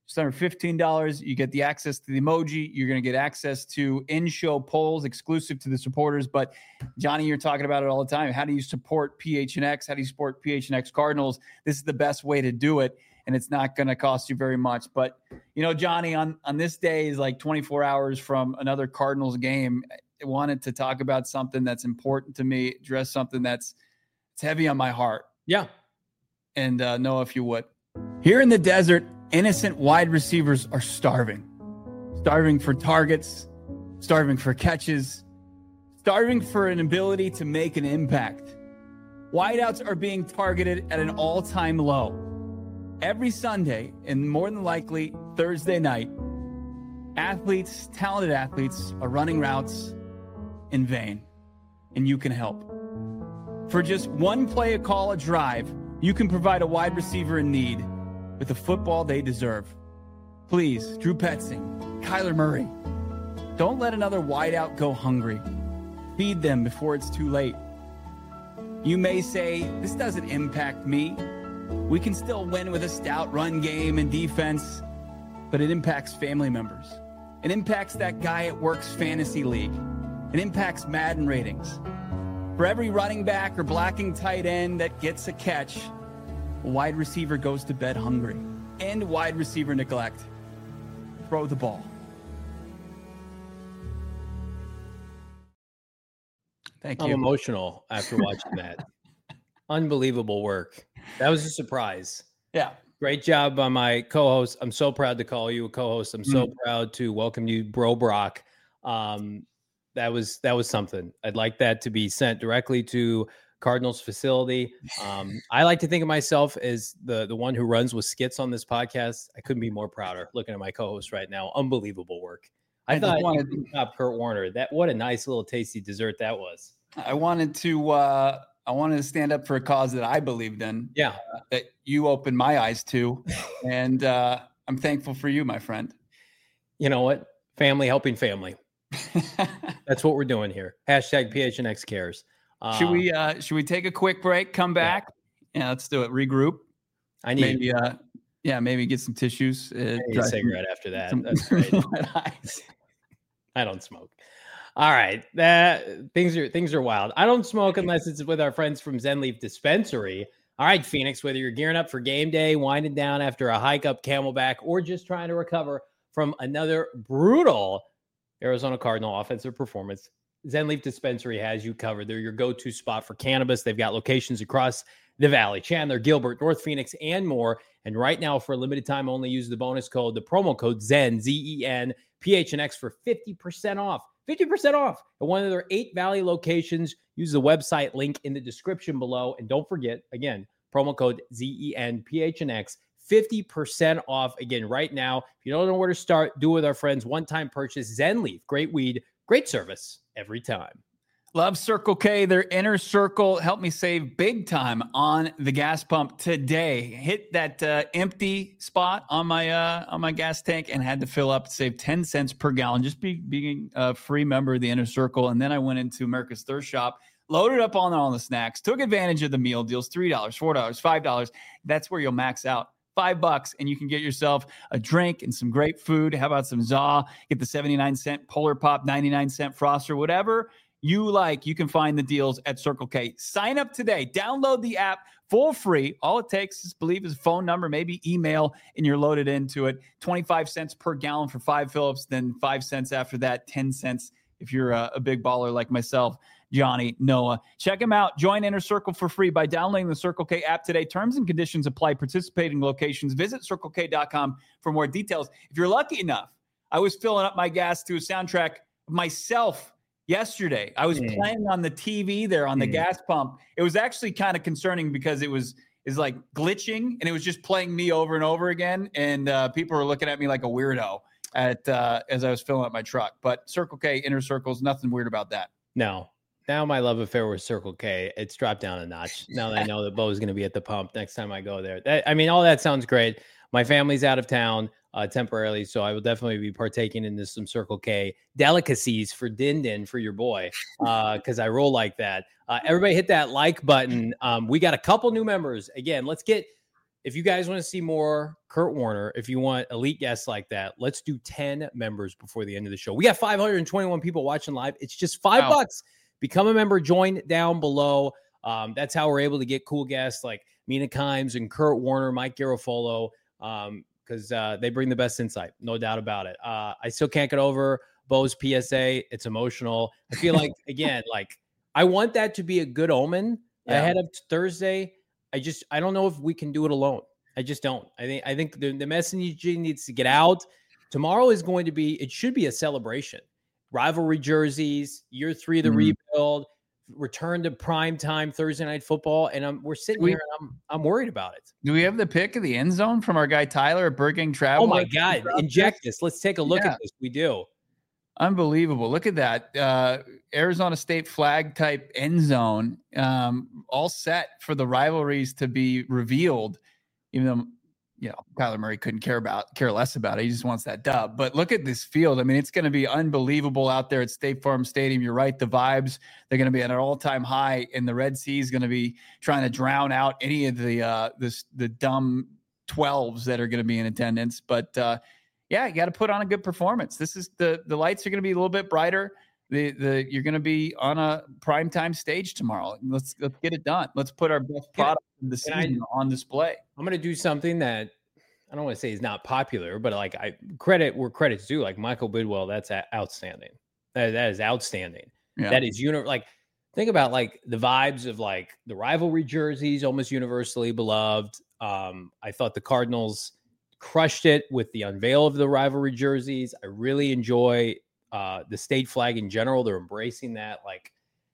Just under $15, you get the access to the emoji. You're going to get access to in-show polls exclusive to the supporters. But Johnny, you're talking about it all the time. How do you support PHNX? How do you support PHNX Cardinals? This is the best way to do it, and it's not going to cost you very much. But, Johnny, on this day is like 24 hours from another Cardinals game. I wanted to talk about something that's important to me, address something it's heavy on my heart. Yeah. And Noah, if you would. Here in the desert, innocent wide receivers are starving for targets, starving for catches, starving for an ability to make an impact. Wideouts are being targeted at an all-time low. Every Sunday, and more than likely Thursday night, talented athletes are running routes in vain, and you can help. For just one play, a call, a drive, you can provide a wide receiver in need with the football they deserve. Please, Drew Petzing, Kyler Murray, don't let another wideout go hungry. Feed them before it's too late. You may say, this doesn't impact me. We can still win with a stout run game and defense, but it impacts family members. It impacts that guy at work's fantasy league. It impacts Madden ratings. For every running back or blocking tight end that gets a catch, a wide receiver goes to bed hungry. And wide receiver neglect. Throw the ball. Thank you. I'm emotional after watching that. Unbelievable work. That was a surprise. Yeah. Great job by my co-host. I'm so proud to call you a co-host. I'm so proud to welcome you, Bro Brock. That was something. I'd like that to be sent directly to Cardinals facility. I like to think of myself as the one who runs with skits on this podcast. I couldn't be more prouder looking at my co-host right now. Unbelievable work. I thought top Kurt Warner. What a nice little tasty dessert that was. I wanted to stand up for a cause that I believed in. Yeah. That you opened my eyes to. And I'm thankful for you, my friend. You know what? Family helping family. That's what we're doing here. Hashtag PHNX cares. Should we take a quick break? Come back. Yeah, let's do it. Regroup. I need maybe get some tissues. I need a cigarette after that. That's great. I don't smoke. All right. Things are wild. I don't smoke unless it's with our friends from Zen Leaf Dispensary. All right, Phoenix, whether you're gearing up for game day, winding down after a hike up Camelback, or just trying to recover from another brutal Arizona Cardinal offensive performance, Zen Leaf Dispensary has you covered. They're your go-to spot for cannabis. They've got locations across the valley, Chandler, Gilbert, North Phoenix, and more. And right now, for a limited time only, use the promo code ZEN, Z-E-N, PHNX for 50% off. 50% off at one of their 8 Valley locations. Use the website link in the description below. And don't forget, again, promo code ZEN, PHNX, 50% off again right now. If you don't know where to start, do it with our friends. One-time purchase, Zen Leaf. Great weed, great service every time. Love Circle K. Their inner circle helped me save big time on the gas pump today. Hit that empty spot on my gas tank and had to fill up, save 10 cents per gallon, just being a free member of the inner circle. And then I went into America's Thirst Shop, loaded up on all the snacks, took advantage of the meal deals, $3, $4, $5. That's where you'll max out. $5 and you can get yourself a drink and some great food. How about some ZA? Get the 79-cent Polar Pop, 99-cent Froster, whatever you like. You can find the deals at Circle K. Sign up today. Download the app for free. All it takes is a phone number, maybe email, and you're loaded into it. 25 cents per gallon for 5 Phillips, then 5 cents after that, 10 cents if you're a big baller like myself, Johnny, Noah. Check them out. Join Inner Circle for free by downloading the Circle K app today. Terms and conditions apply. Participating locations. Visit CircleK.com for more details. If you're lucky enough, I was filling up my gas to a soundtrack of myself yesterday. I was playing on the TV there on the gas pump. It was actually kind of concerning because is like glitching and it was just playing me over and over again. And people were looking at me like a weirdo as I was filling up my truck. But Circle K, Inner Circles, nothing weird about that. No. Now my love affair with Circle K, it's dropped down a notch. Now that I know that Bo's going to be at the pump next time I go there. All that sounds great. My family's out of town temporarily, so I will definitely be partaking in some Circle K delicacies for Din for your boy, because I roll like that. Everybody hit that like button. We got a couple new members. Again, let's get if you guys want to see more Kurt Warner, if you want elite guests like that, let's do 10 members before the end of the show. We got 521 people watching live. It's just $5. Become a member, join down below. That's how we're able to get cool guests like Mina Kimes and Kurt Warner, Mike Garafolo, because they bring the best insight, no doubt about it. I still can't get over Bo's PSA. It's emotional. I feel like, again, like I want that to be a good omen ahead of Thursday. I don't know if we can do it alone. I just don't. I think the message needs to get out. Tomorrow is going to be, it should be a celebration. Rivalry jerseys, year 3 of the rebuild, return to prime time Thursday night football. And we're sitting here and I'm worried about it. Do we have the pick of the end zone from our guy Tyler at Burger King Travel? Oh my God. Inject this. Let's take a look at this. We do. Unbelievable. Look at that. Arizona State flag type end zone, all set for the rivalries to be revealed, even though, Kyler Murray couldn't care less about it. He just wants that dub. But look at this field. I mean, it's going to be unbelievable out there at State Farm Stadium. You're right. The vibes, they're going to be at an all-time high, and the Red Sea is going to be trying to drown out any of the dumb 12s that are going to be in attendance. But, you got to put on a good performance. This is the lights are going to be a little bit brighter. You're going to be on a primetime stage tomorrow. Let's get it done. Let's put our best product of the season on display. I'm going to do something that I don't want to say is not popular, but like credit where credit's due. Like Michael Bidwell, that's outstanding. That is outstanding. Yeah. That is think about like the vibes of like the rivalry jerseys, almost universally beloved. I thought the Cardinals crushed it with the unveil of the rivalry jerseys. I really enjoy the state flag in general. They're embracing that. Like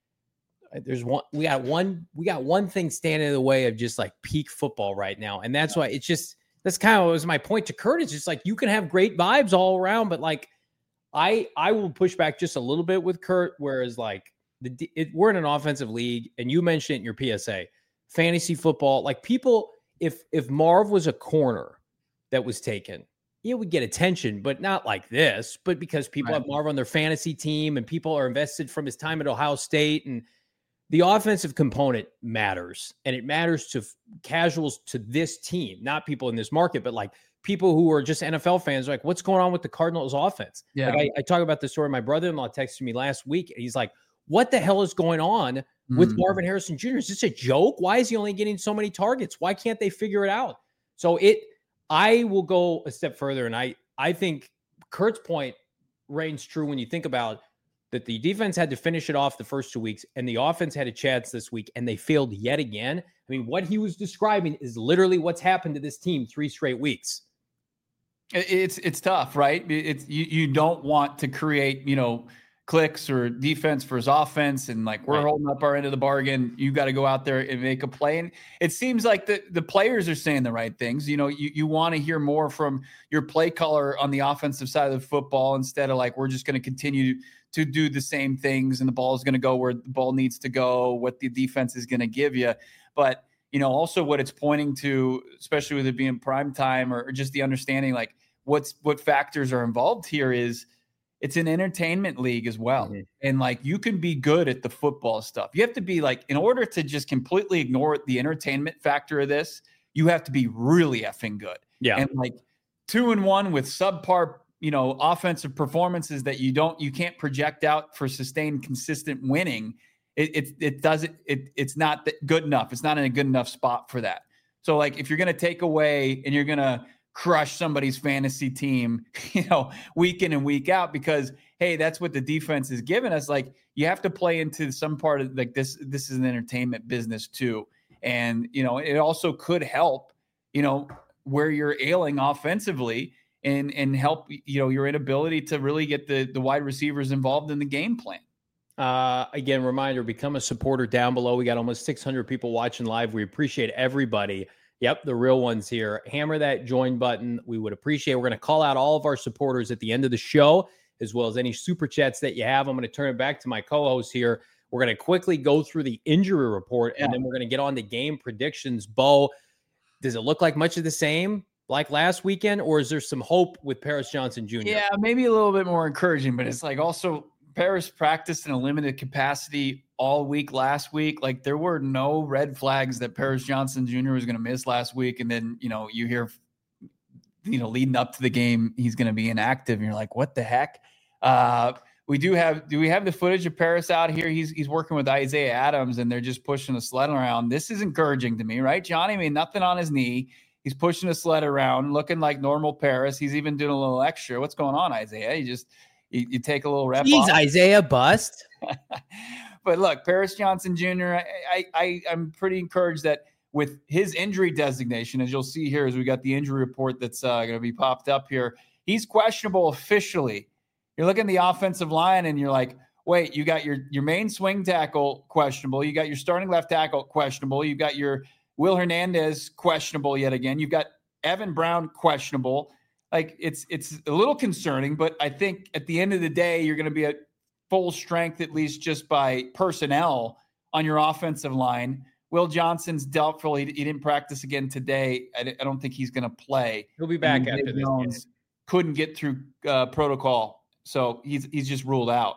we got one thing standing in the way of just like peak football right now. And that's why that's kind of was my point to Kurt. It's just like, you can have great vibes all around, but like, I will push back just a little bit with Kurt. Whereas like we're in an offensive league, and you mentioned it in your PSA, fantasy football, like people, if Marv was a corner that was taken, we get attention, but not like this, but because people have Marv on their fantasy team and people are invested from his time at Ohio State, and the offensive component matters, and it matters to casuals to this team, not people in this market, but like people who are just NFL fans, like what's going on with the Cardinals offense? Yeah. Like I talk about the story. My brother-in-law texted me last week, and he's like, what the hell is going on with Marvin Harrison Jr.? Is this a joke? Why is he only getting so many targets? Why can't they figure it out? So I will go a step further, and I think Kurt's point reigns true when you think about that the defense had to finish it off the first 2 weeks, and the offense had a chance this week, and they failed yet again. I mean, what he was describing is literally what's happened to this team 3 straight weeks. It's tough, right? You don't want to create, clicks or defense for his offense, and like we're holding up our end of the bargain. You got to go out there and make a play. And it seems like the players are saying the right things. You want to hear more from your play caller on the offensive side of the football, instead of like, we're just going to continue to do the same things, and the ball is going to go where the ball needs to go, what the defense is going to give you. But, also what it's pointing to, especially with it being prime time, or just the understanding, like what factors are involved here is, it's an entertainment league as well. Mm-hmm. And like, you can be good at the football stuff. You have to be like, in order to just completely ignore the entertainment factor of this, you have to be really effing good. Yeah. And like 2-1 with subpar, offensive performances that you can't project out for sustained, consistent winning. It's not good enough. It's not in a good enough spot for that. So like, if you're going to take away and you're going to crush somebody's fantasy team, week in and week out, because hey, that's what the defense is giving us. Like, you have to play into some part of like this is an entertainment business too. And, it also could help, where you're ailing offensively and help, your inability to really get the wide receivers involved in the game plan. Again, reminder, become a supporter down below. We got almost 600 people watching live. We appreciate everybody. Yep, the real ones here. Hammer that join button. We would appreciate it. We're going to call out all of our supporters at the end of the show, as well as any super chats that you have. I'm going to turn it back to my co-host here. We're going to quickly go through the injury report, and then we're going to get on to game predictions. Bo, does it look like much of the same like last weekend, or is there some hope with Paris Johnson Jr.? Yeah, maybe a little bit more encouraging, but it's like also Paris practiced in a limited capacity all week last week. Like, there were no red flags that Paris Johnson Jr. was going to miss last week. And then, you hear, leading up to the game, he's going to be inactive. And you're like, what the heck? Do we have the footage of Paris out here? He's working with Isaiah Adams, and they're just pushing the sled around. This is encouraging to me, right, Johnny? I mean, nothing on his knee. He's pushing the sled around, looking like normal Paris. He's even doing a little extra. What's going on, Isaiah? You take a little rep Jeez, off. Isaiah, bust. But look, Paris Johnson Jr., I'm pretty encouraged that with his injury designation, as you'll see here, as we got the injury report that's going to be popped up here, he's questionable officially. You're looking at the offensive line and you're like, wait, you got your main swing tackle questionable. You got your starting left tackle questionable. You got your Will Hernandez questionable yet again. You've got Evan Brown questionable. Like, it's a little concerning, but I think at the end of the day, you're going to be at full strength, at least just by personnel on your offensive line. Will Johnson's doubtful. He didn't practice again today. I don't think he's going to play. He'll be back after this game. Couldn't get through protocol, so he's just ruled out.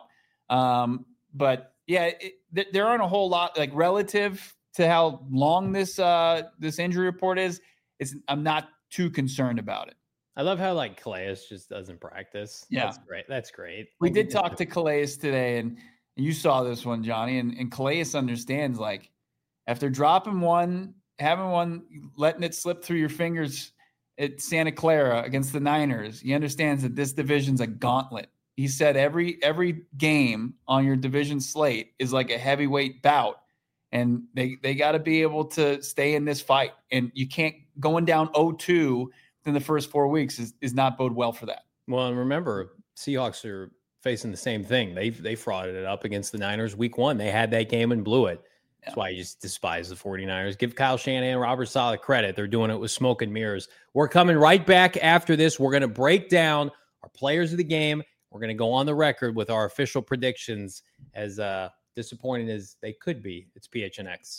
But yeah, there aren't a whole lot, like, relative to how long this injury report is. I'm not too concerned about it. I love how, like, Calais just doesn't practice. Yeah. That's great. We did talk to Calais today, and you saw this one, Johnny, and Calais understands, like, after dropping one, having one, letting it slip through your fingers at Santa Clara against the Niners, he understands that this division's a gauntlet. He said every game on your division slate is like a heavyweight bout, and they got to be able to stay in this fight. And you can't, going down 0-2 in the first 4 weeks is not bode well for that. Well, and remember, Seahawks are facing the same thing. They frauded it up against the Niners week 1. They had that game and blew it. That's why you just despise the 49ers. Give Kyle Shanahan and Robert Saleh credit. They're doing it with smoke and mirrors. We're coming right back after this. We're going to break down our players of the game. We're going to go on the record with our official predictions, as disappointing as they could be. It's PHNX.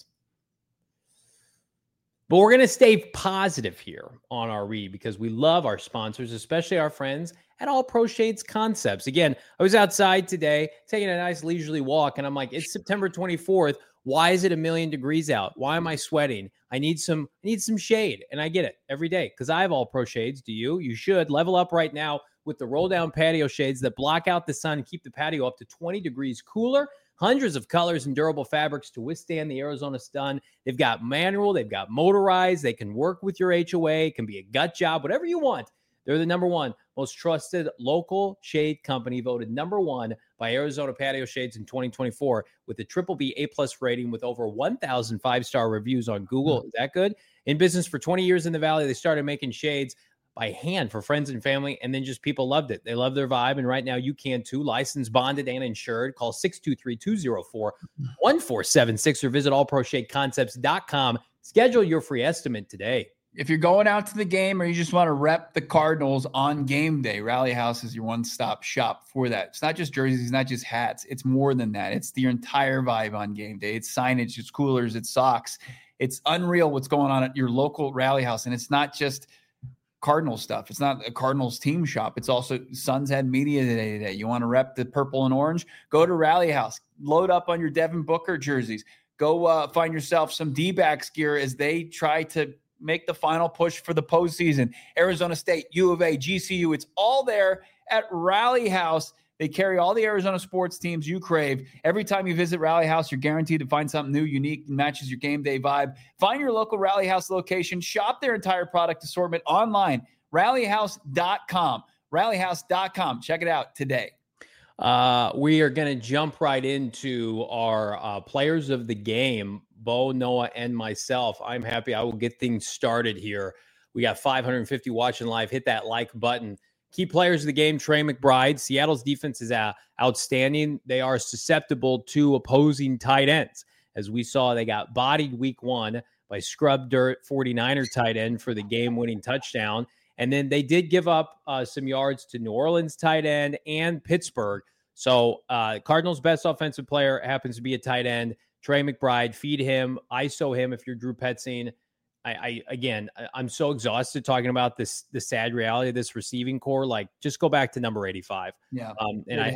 But we're going to stay positive here on our read because we love our sponsors, especially our friends at All Pro Shades Concepts. Again, I was outside today taking a nice leisurely walk, and I'm like, it's September 24th. Why is it 1,000,000 degrees out? Why am I sweating? I need some shade, and I get it every day because I have All Pro Shades. Do you? You should. Level up right now with the roll-down patio shades that block out the sun and keep the patio up to 20 degrees cooler. Hundreds of colors and durable fabrics to withstand the Arizona sun. They've got manual. They've got motorized. They can work with your HOA. It can be a gut job, whatever you want. They're the #1 most trusted local shade company, voted #1 by Arizona Patio Shades in 2024 with a BBB A+ rating with over 1,000 5-star reviews on Google. Is that good? In business for 20 years in the Valley, they started making shades by hand for friends and family, and then just people loved it. They love their vibe, and right now you can too. Licensed, bonded, and insured. Call 623-204-1476 or visit allproshadeconcepts.com. Schedule your free estimate today. If you're going out to the game or you just want to rep the Cardinals on game day, Rally House is your one-stop shop for that. It's not just jerseys, it's not just hats. It's more than that. It's your entire vibe on game day. It's signage, it's coolers, it's socks. It's unreal what's going on at your local Rally House, and it's not just Cardinals stuff. It's not a Cardinals team shop. It's also Suns had media today. You want to rep the purple and orange? Go to Rally House. Load up on your Devin Booker jerseys. Go find yourself some D-backs gear as they try to make the final push for the postseason. Arizona State, U of A, GCU, it's all there at Rally House. They carry all the Arizona sports teams you crave. Every time you visit Rally House, you're guaranteed to find something new, unique, and matches your game day vibe. Find your local Rally House location. Shop their entire product assortment online. Rallyhouse.com. Rallyhouse.com. Check it out today. We are going to jump right into our players of the game, Bo, Noah, and myself. I'm happy. I will get things started here. We got 550 watching live. Hit that like button. Key players of the game, Trey McBride. Seattle's defense is outstanding. They are susceptible to opposing tight ends. As we saw, they got bodied week 1 by scrub dirt 49er tight end for the game-winning touchdown. And then they did give up some yards to New Orleans tight end and Pittsburgh. So Cardinals' best offensive player happens to be a tight end. Trey McBride, feed him, ISO him if you're Drew Petzing. I'm so exhausted talking about the sad reality of this receiving core. Like, just go back to number 85. Yeah.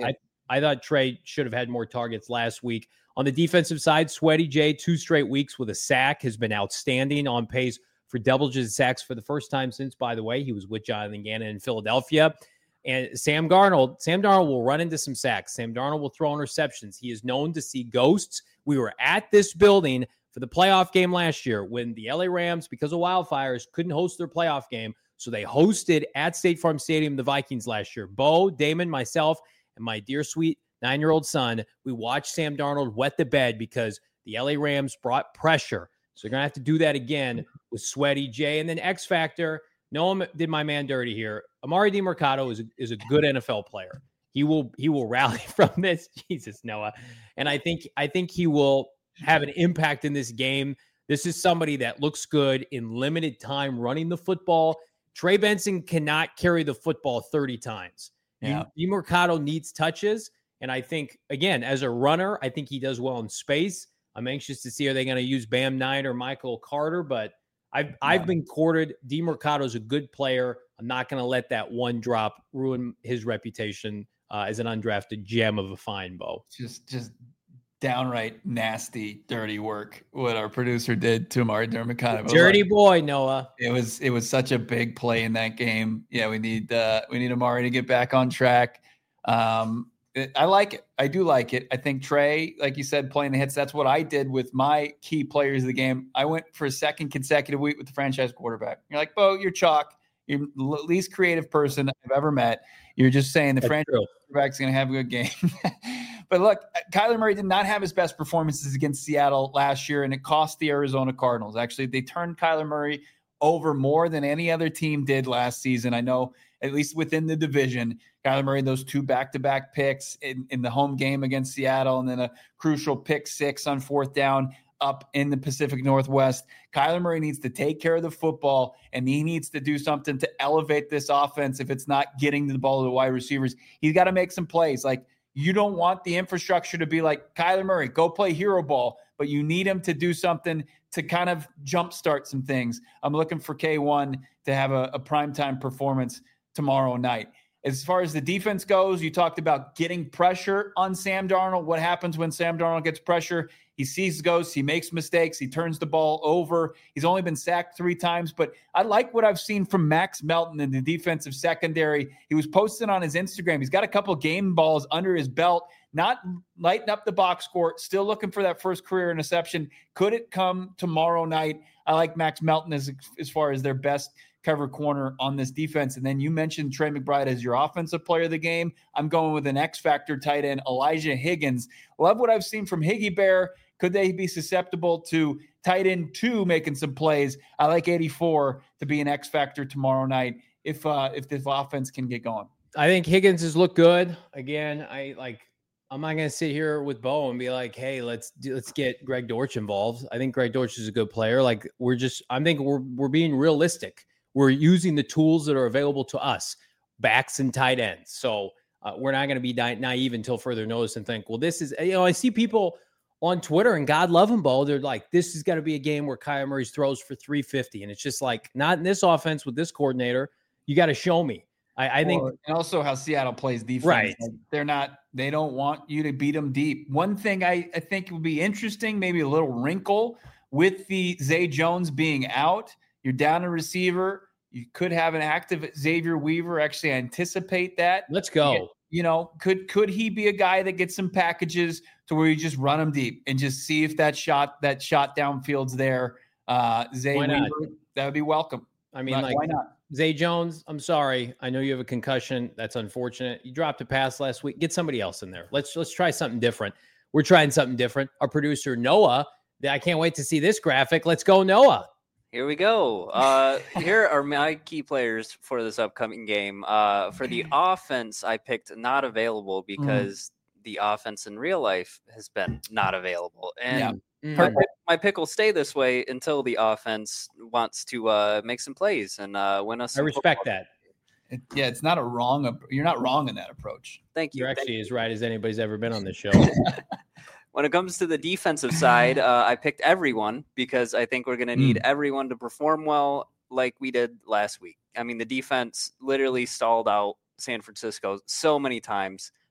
I thought Trey should have had more targets last week. On the defensive side, Sweaty J, 2 straight weeks with a sack, has been outstanding, on pace for double-digit sacks for the first time since, by the way, he was with Jonathan Gannon in Philadelphia. And Sam Darnold will run into some sacks. Sam Darnold will throw interceptions. He is known to see ghosts. We were at this building for the playoff game last year when the LA Rams, because of wildfires, couldn't host their playoff game. So they hosted at State Farm Stadium the Vikings last year. Bo, Damon, myself, and my dear sweet 9-year-old son, we watched Sam Darnold wet the bed because the LA Rams brought pressure. So they're going to have to do that again with Sweaty J. And then X Factor, Noah did my man dirty here. Amari DiMercato is a good NFL player. He will rally from this. Jesus, Noah. And I think he will have an impact in this game. This is somebody that looks good in limited time running the football. Trey Benson cannot carry the football 30 times. Yeah. DiMercato needs touches. And I think, again, as a runner, I think he does well in space. I'm anxious to see, are they going to use Bam Knight or Michael Carter? But I've been courted. DiMercato's a good player. I'm not going to let that one drop ruin his reputation as an undrafted gem of a fine, Bo. Just downright nasty, dirty work what our producer did to Amari DiMercato. Dirty boy, Noah. It was such a big play in that game. Yeah, we need Amari to get back on track. I like it. I do like it. I think Trey, like you said, playing the hits, that's what I did with my key players of the game. I went for a second consecutive week with the franchise quarterback. You're like, Bo, you're chalk. You're the least creative person I've ever met. You're just saying the franchise quarterback's going to have a good game. But look, Kyler Murray did not have his best performances against Seattle last year, and it cost the Arizona Cardinals. Actually, they turned Kyler Murray over more than any other team did last season. I know, at least within the division, Kyler Murray, those 2 back-to-back picks in the home game against Seattle, and then a crucial pick 6 on 4th down up in the Pacific Northwest. Kyler Murray needs to take care of the football, and he needs to do something to elevate this offense. If it's not getting the ball to the wide receivers, he's got to make some plays. Like, you don't want the infrastructure to be like, Kyler Murray, go play hero ball, but you need him to do something to kind of jumpstart some things. I'm looking for K1 to have a primetime performance tomorrow night. As far as the defense goes, you talked about getting pressure on Sam Darnold. What happens when Sam Darnold gets pressure? He sees ghosts. He makes mistakes. He turns the ball over. He's only been sacked 3 times, but I like what I've seen from Max Melton in the defensive secondary. He was posting on his Instagram. He's got a couple game balls under his belt, not lighting up the box score, still looking for that first career interception. Could it come tomorrow night? I like Max Melton as far as their best cover corner on this defense. And then you mentioned Trey McBride as your offensive player of the game. I'm going with an X-Factor tight end, Elijah Higgins. Love what I've seen from Higgy Bear. Could they be susceptible to tight end 2 making some plays? I like 84 to be an X-Factor tomorrow night if this offense can get going. I think Higgins has looked good. Again, I'm not going to sit here with Bo and be like, hey, let's get Greg Dortch involved. I think Greg Dortch is a good player. I think we're being realistic. We're using the tools that are available to us, backs and tight ends. So we're not going to be naive until further notice and think, well, this is, I see people on Twitter, and God love them, Bo, they're like, this is going to be a game where Kyler Murray throws for 350. And it's just like, not in this offense with this coordinator. You got to show me. I think. And also how Seattle plays defense. Right. Like they don't want you to beat them deep. One thing I think would be interesting, maybe a little wrinkle with the Zay Jones being out. You're down a receiver. You could have an active Xavier Weaver. Actually, I anticipate that. Let's go. Could he be a guy that gets some packages to where you just run him deep and just see if that shot downfield's there? Zay Weaver, that would be welcome. I mean, why not? Zay Jones, I'm sorry. I know you have a concussion. That's unfortunate. You dropped a pass last week. Get somebody else in there. Let's try something different. We're trying something different. Our producer, Noah, I can't wait to see this graphic. Let's go, Noah. Here we go. Here are my key players for this upcoming game. For the offense, I picked not available because the offense in real life has been not available. And my pick will stay this way until the offense wants to make some plays and win us. I respect that. It's not you're not wrong in that approach. Thank you. You're actually as right as anybody's ever been on this show. When it comes to the defensive side, I picked everyone because I think we're going to need everyone to perform well like we did last week. I mean, the defense literally stalled out San Francisco so many times.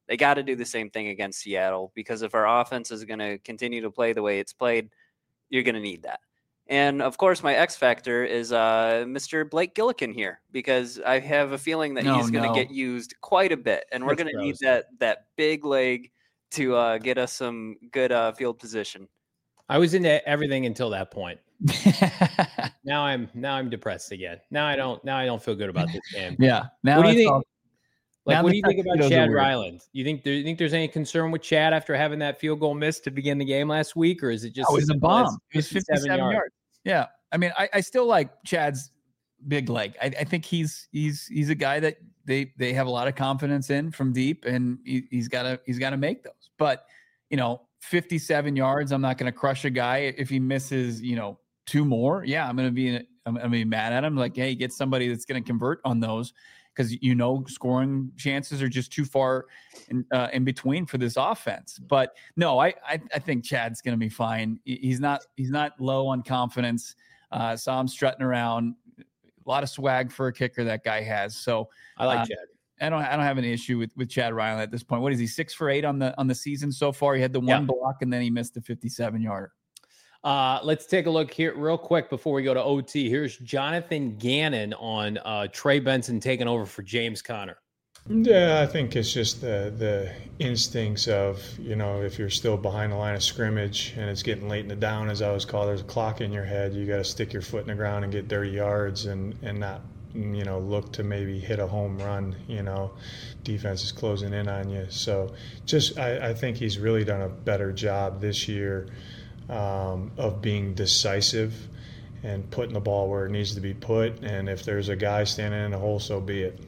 They got to do the same thing against Seattle, because if our offense is going to continue to play the way it's played, you're going to need that. And of course, my X factor is Mr. Blake Gillikin here, because I have a feeling that he's going to get used quite a bit, and we're going to need that big leg to get us some good field position. I was into everything until that point. Now I'm depressed again. Now I don't feel good about this game. Yeah. Now what do you think? What do you think about Chad Ryland? Do you think there's any concern with Chad after having that field goal missed to begin the game last week, or is it just? It was a bomb. It was 57 yards. Yeah. I mean, I still like Chad's big leg. I think he's a guy that they have a lot of confidence in from deep, and he's got to make those. But 57 yards, I'm not going to crush a guy if he misses 2 more. Yeah, I'm going to be mad at him. Like, hey, get somebody that's going to convert on those, because scoring chances are just too far in between for this offense. But no, I think Chad's going to be fine. He's not low on confidence. Saw him strutting around. A lot of swag for a kicker that guy has. So I like Chad. I don't have any issue with Chad Ryland at this point. What is he, 6 for 8 on the season so far? He had the one block, and then he missed the 57-yarder. Let's take a look here real quick before we go to OT. Here's Jonathan Gannon on Trey Benson taking over for James Conner. Yeah, I think it's just the instincts of, if you're still behind the line of scrimmage and it's getting late in the down, as I always call it, there's a clock in your head. You got to stick your foot in the ground and get dirty yards and not, look to maybe hit a home run. Defense is closing in on you. So I think he's really done a better job this year of being decisive and putting the ball where it needs to be put. And if there's a guy standing in the hole, so be it.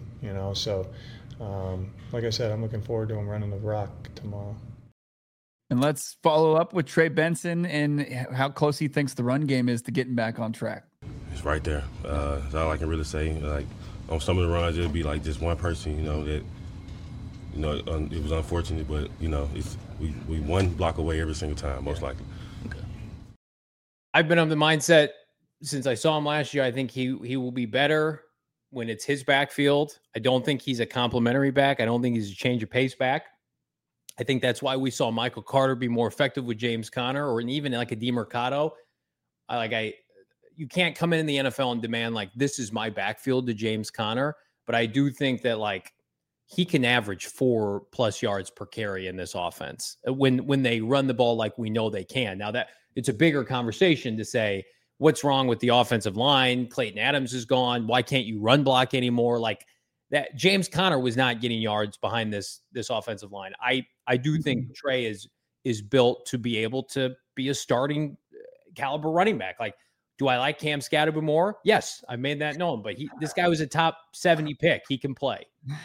Like I said, I'm looking forward to him running the rock tomorrow. And let's follow up with Trey Benson and how close he thinks the run game is to getting back on track. It's right there. That's all I can really say. Like, on some of the runs, it'll be like just one person, that, it was unfortunate, but, we one block away every single time, most likely. Okay. I've been of the mindset since I saw him last year. I think he will be better when it's his backfield. I don't think he's a complimentary back. I don't think he's a change of pace back. I think that's why we saw Michael Carter be more effective with James Conner, or even like a DeMercado. You can't come in the NFL and demand like, this is my backfield to James Conner. But I do think that he can average 4+ yards per carry in this offense when they run the ball like we know they can. Now that it's a bigger conversation to say, what's wrong with the offensive line? Clayton Adams is gone. Why can't you run block anymore? Like that, James Conner was not getting yards behind this offensive line. I do think Trey is built to be able to be a starting caliber running back. Like, do I like Cam Scatterby more? Yes, I made that known. But this guy was a top 70 pick. He can play.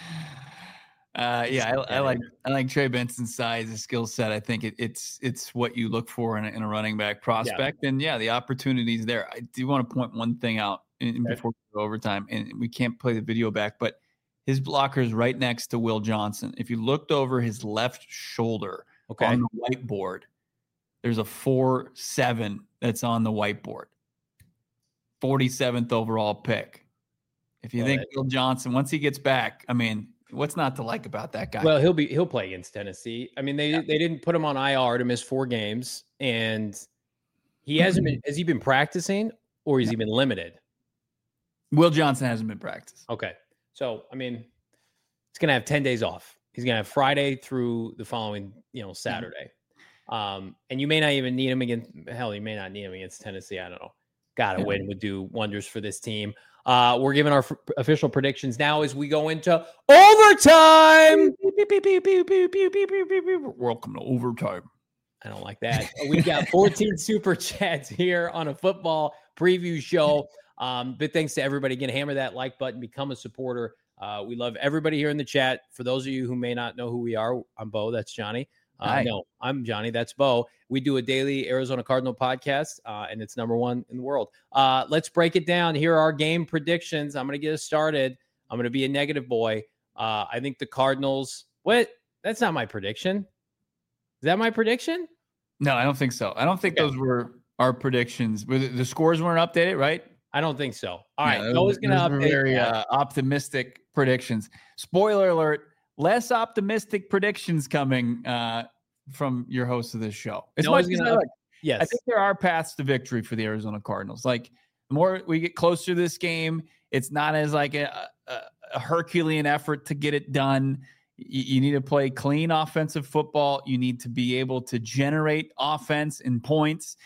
I like Trey Benson's size, his skill set. I think it's what you look for in a running back prospect. Yeah. And the opportunities there. I do want to point one thing out before we go overtime, and we can't play the video back, but his blocker is right next to Will Johnson. If you looked over his left shoulder on the whiteboard, there's a 4.7 that's on the whiteboard. 47th overall pick. If you think Will Johnson, once he gets back, I mean, what's not to like about that guy? Well, he'll play against Tennessee. I mean, they didn't put him on IR to miss 4 games, and he hasn't been. Has he been practicing, or has he been limited? Will Johnson hasn't been practicing. Okay, so I mean, he's gonna have 10 days off. He's gonna have Friday through the following, Saturday, and you may not even need him against. Hell, you may not need him against Tennessee. I don't know. Got to win would do wonders for this team. We're giving our official predictions now as we go into overtime. Welcome to overtime. I don't like that. We got 14 super chats here on a football preview show. But thanks to everybody. Again, hammer that like button, become a supporter. We love everybody here in the chat. For those of you who may not know who we are, I'm Bo. That's Johnny. No, I'm Johnny. That's Bo. We do a daily Arizona Cardinal podcast, and it's #1 in the world. Let's break it down. Here are our game predictions. I'm going to get us started. I'm going to be a negative boy. I think the Cardinals. What? That's not my prediction. Is that my prediction? No, I don't think so. I don't think those were our predictions. The scores weren't updated, right? I don't think so. All right. Noah's going to update. Very optimistic predictions. Spoiler alert. less optimistic predictions coming from your host of this show. As No much one's as gonna- I Yes. think there are paths to victory for the Arizona Cardinals. Like the more we get closer to this game, it's not as like a Herculean effort to get it done. You need to play clean offensive football. You need to be able to generate offense and points.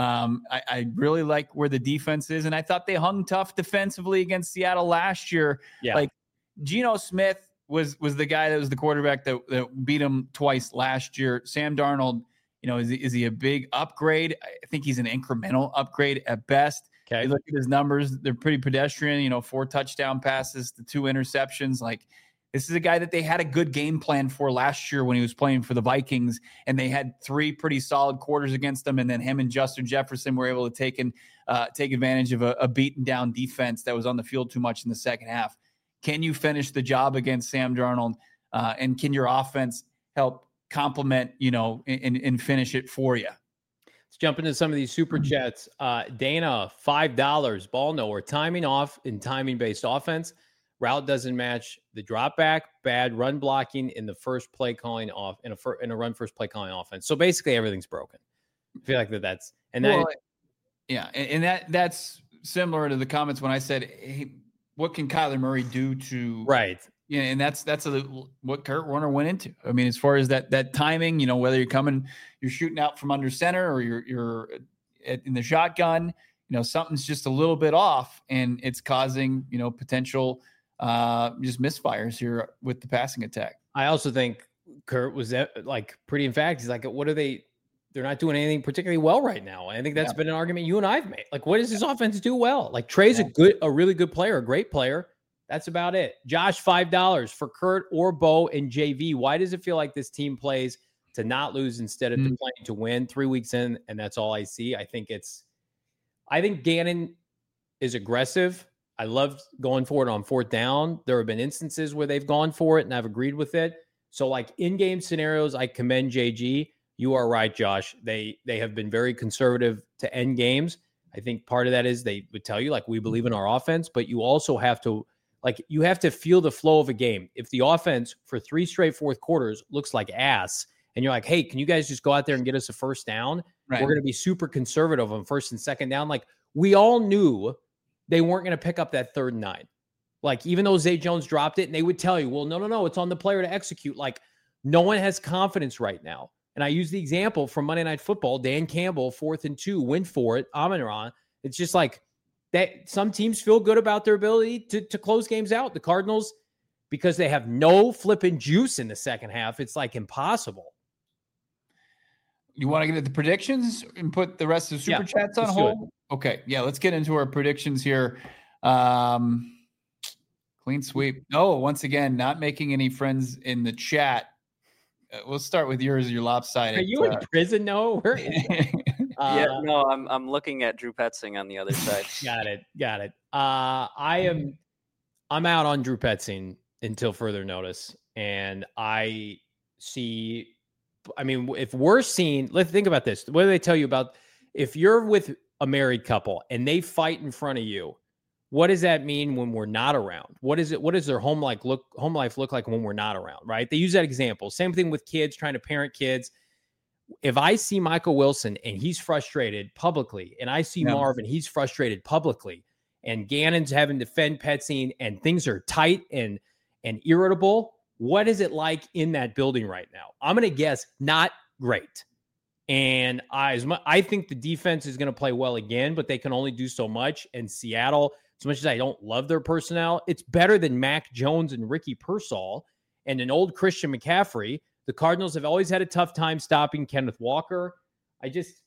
I really like where the defense is, and I thought they hung tough defensively against Seattle last year. Yeah. Like Geno Smith was the guy that was the quarterback that beat him twice last year. Sam Darnold, is he a big upgrade? I think he's an incremental upgrade at best. Okay. You look at his numbers; they're pretty pedestrian. 4 touchdown passes to 2 interceptions. Like this is a guy that they had a good game plan for last year when he was playing for the Vikings, and they had 3 pretty solid quarters against them. And then him and Justin Jefferson were able to take advantage of a beaten down defense that was on the field too much in the second half. Can you finish the job against Sam Darnold? And can your offense help complement, and finish it for you? Let's jump into some of these super chats. Dana, $5. Ball nowhere. Timing off in timing-based offense. Route doesn't match the drop back. Bad run blocking in the first play calling off in a run first play calling offense. So basically everything's broken. I feel like that's and that. Well, yeah, and that's similar to the comments when I said, hey, what can Kyler Murray do to right? Yeah, and that's what Kurt Warner went into. I mean, as far as that timing, whether you're shooting out from under center or you're in the shotgun, something's just a little bit off, and it's causing potential just misfires here with the passing attack. I also think Kurt was pretty emphatic. He's like, what are they? They're not doing anything particularly well right now. And I think that's been an argument you and I've made. Like, what does this offense do well? Like Trey's a really good player, a great player. That's about it. Josh, $5 for Kurt or Bo and JV. Why does it feel like this team plays to not lose instead of playing to win 3 weeks in? And that's all I see. I think Gannon is aggressive. I love going for it on 4th down. There have been instances where they've gone for it and I've agreed with it. So like in-game scenarios, I commend JG. You are right, Josh. They have been very conservative to end games. I think part of that is they would tell you, like, we believe in our offense, but you also have to, you have to feel the flow of a game. If the offense for 3 straight fourth quarters looks like ass, and you're like, hey, can you guys just go out there and get us a first down? Right. We're going to be super conservative on 1st and 2nd down. Like, we all knew they weren't going to pick up that 3rd and 9. Like, even though Zay Jones dropped it, and they would tell you, well, no, it's on the player to execute. Like, no one has confidence right now. And I use the example from Monday Night Football, Dan Campbell, 4th and 2, went for it, Amon-Ra. It's just like that. Some teams feel good about their ability to close games out. The Cardinals, because they have no flipping juice in the second half, it's like impossible. You want to get into the predictions and put the rest of the super chats on hold? Okay. Yeah, let's get into our predictions here. Clean sweep. No, once again, not making any friends in the chat. We'll start with yours. Your lopsided. Are you in prison? No. No. I'm looking at Drew Petzing on the other side. Got it. I'm out on Drew Petzing until further notice, and I see. I mean, if we're seeing, let's think about this. What do they tell you about if you're with a married couple and they fight in front of you? What does that mean when we're not around? What does their home life look like when we're not around, right? They use that example. Same thing with kids, trying to parent kids. If I see Michael Wilson and he's frustrated publicly, and I see Marv and he's frustrated publicly, and Gannon's having to defend Petzing and things are tight and irritable, what is it like in that building right now? I'm going to guess not great. And I think the defense is going to play well again, but they can only do so much. And Seattle, as much as I don't love their personnel, it's better than Mac Jones and Ricky Pearsall and an old Christian McCaffrey. The Cardinals have always had a tough time stopping Kenneth Walker. I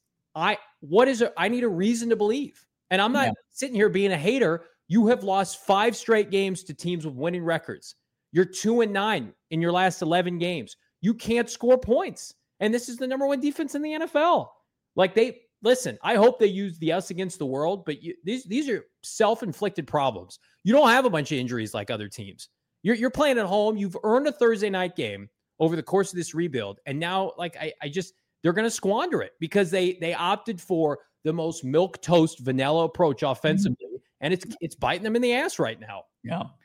need a reason to believe. And I'm not sitting here being a hater. You have lost 5 straight games to teams with winning records. You're 2-9 in your last 11 games. You can't score points. And this is the number 1 defense in the NFL. Listen, I hope they use the us against the world, but these are self-inflicted problems. You don't have a bunch of injuries like other teams. You're playing at home. You've earned a Thursday night game over the course of this rebuild. And now, they're going to squander it because they opted for the most milquetoast vanilla approach offensively. And it's biting them in the ass right now. Yeah.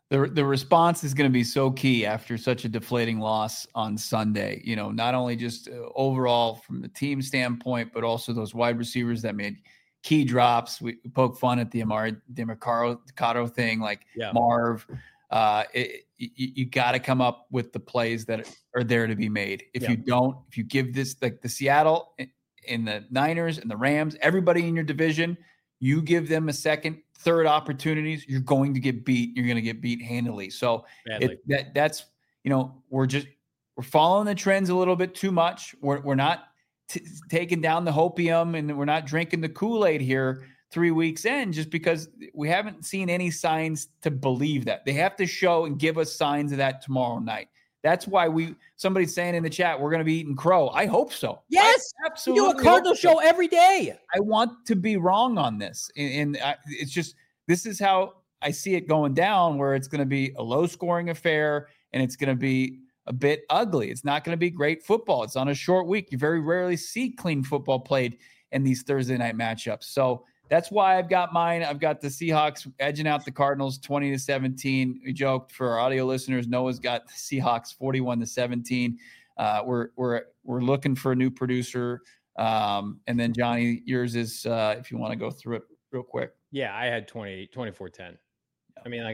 The response is going to be so key after such a deflating loss on Sunday. Not only just overall from the team standpoint, but also those wide receivers that made key drops. We poke fun at the Amari DeMarcado thing, like Marv. You got to come up with the plays that are there to be made. If you give this, like the Seattle and the Niners and the Rams, everybody in your division, you give them a second, third opportunities, you're going to get beat. You're going to get beat handily. So that's we're following the trends a little bit too much. We're not taking down the hopium, and we're not drinking the Kool-Aid here 3 weeks in, just because we haven't seen any signs to believe that. They have to show and give us signs of that tomorrow night. That's why somebody's saying in the chat, we're going to be eating crow. I hope so. Yes. I absolutely. We do a Cardinal show every day. I want to be wrong on this. And it's just, this is how I see it going down, where it's going to be a low scoring affair and it's going to be a bit ugly. It's not going to be great football. It's on a short week. You very rarely see clean football played in these Thursday night matchups. So that's why I've got mine. I've got the Seahawks edging out the Cardinals 20-17. We joked for our audio listeners, Noah's got the Seahawks 41-17. We're looking for a new producer. And then Johnny, yours is if you want to go through it real quick. Yeah, I had 24-10. I mean,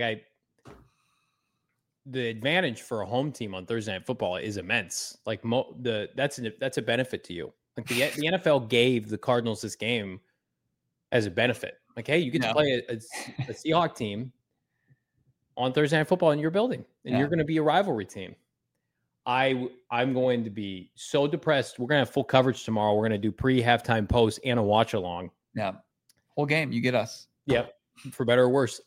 the advantage for a home team on Thursday Night Football is immense. Like that's a benefit to you. Like the NFL gave the Cardinals this game as a benefit. Like, hey, you get to play a Seahawks team on Thursday Night Football in your building, and you're going to be a rivalry team. I'm going to be so depressed. We're going to have full coverage tomorrow. We're going to do pre-halftime post and a watch along. Yeah, whole game. You get us. Yep, for better or worse.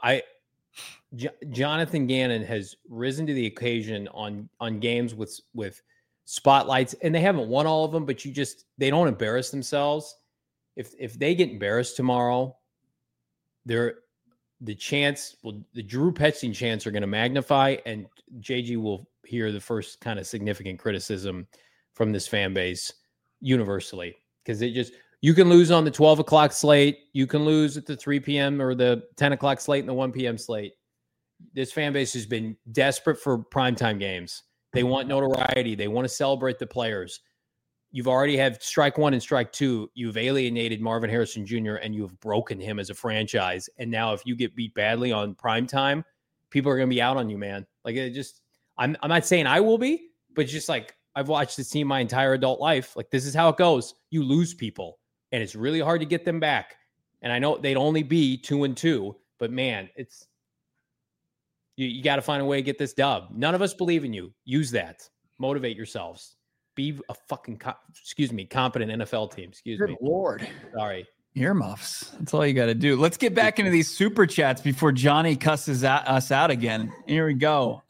Jonathan Gannon has risen to the occasion on games with spotlights, and they haven't won all of them, but they don't embarrass themselves. If they get embarrassed tomorrow, the Drew Petzing chants are going to magnify, and JG will hear the first kind of significant criticism from this fan base universally, because you can lose on the 12 o'clock slate, you can lose at the 3 p.m. or the 10 o'clock slate and the 1 p.m. slate. This fan base has been desperate for primetime games. They want notoriety. They want to celebrate the players. You've already had strike one and strike two. You've alienated Marvin Harrison Jr. and you have broken him as a franchise. And now if you get beat badly on primetime, people are going to be out on you, man. Like, I'm not saying I will be, but it's just like, I've watched this team my entire adult life. Like, this is how it goes. You lose people, and it's really hard to get them back. And I know they'd only be 2-2, but man, you got to find a way to get this dub. None of us believe in you. Use that. Motivate yourselves. Be a fucking, competent NFL team. Good Lord. Sorry. Earmuffs. That's all you got to do. Let's get back into these super chats before Johnny cusses us out again. Here we go.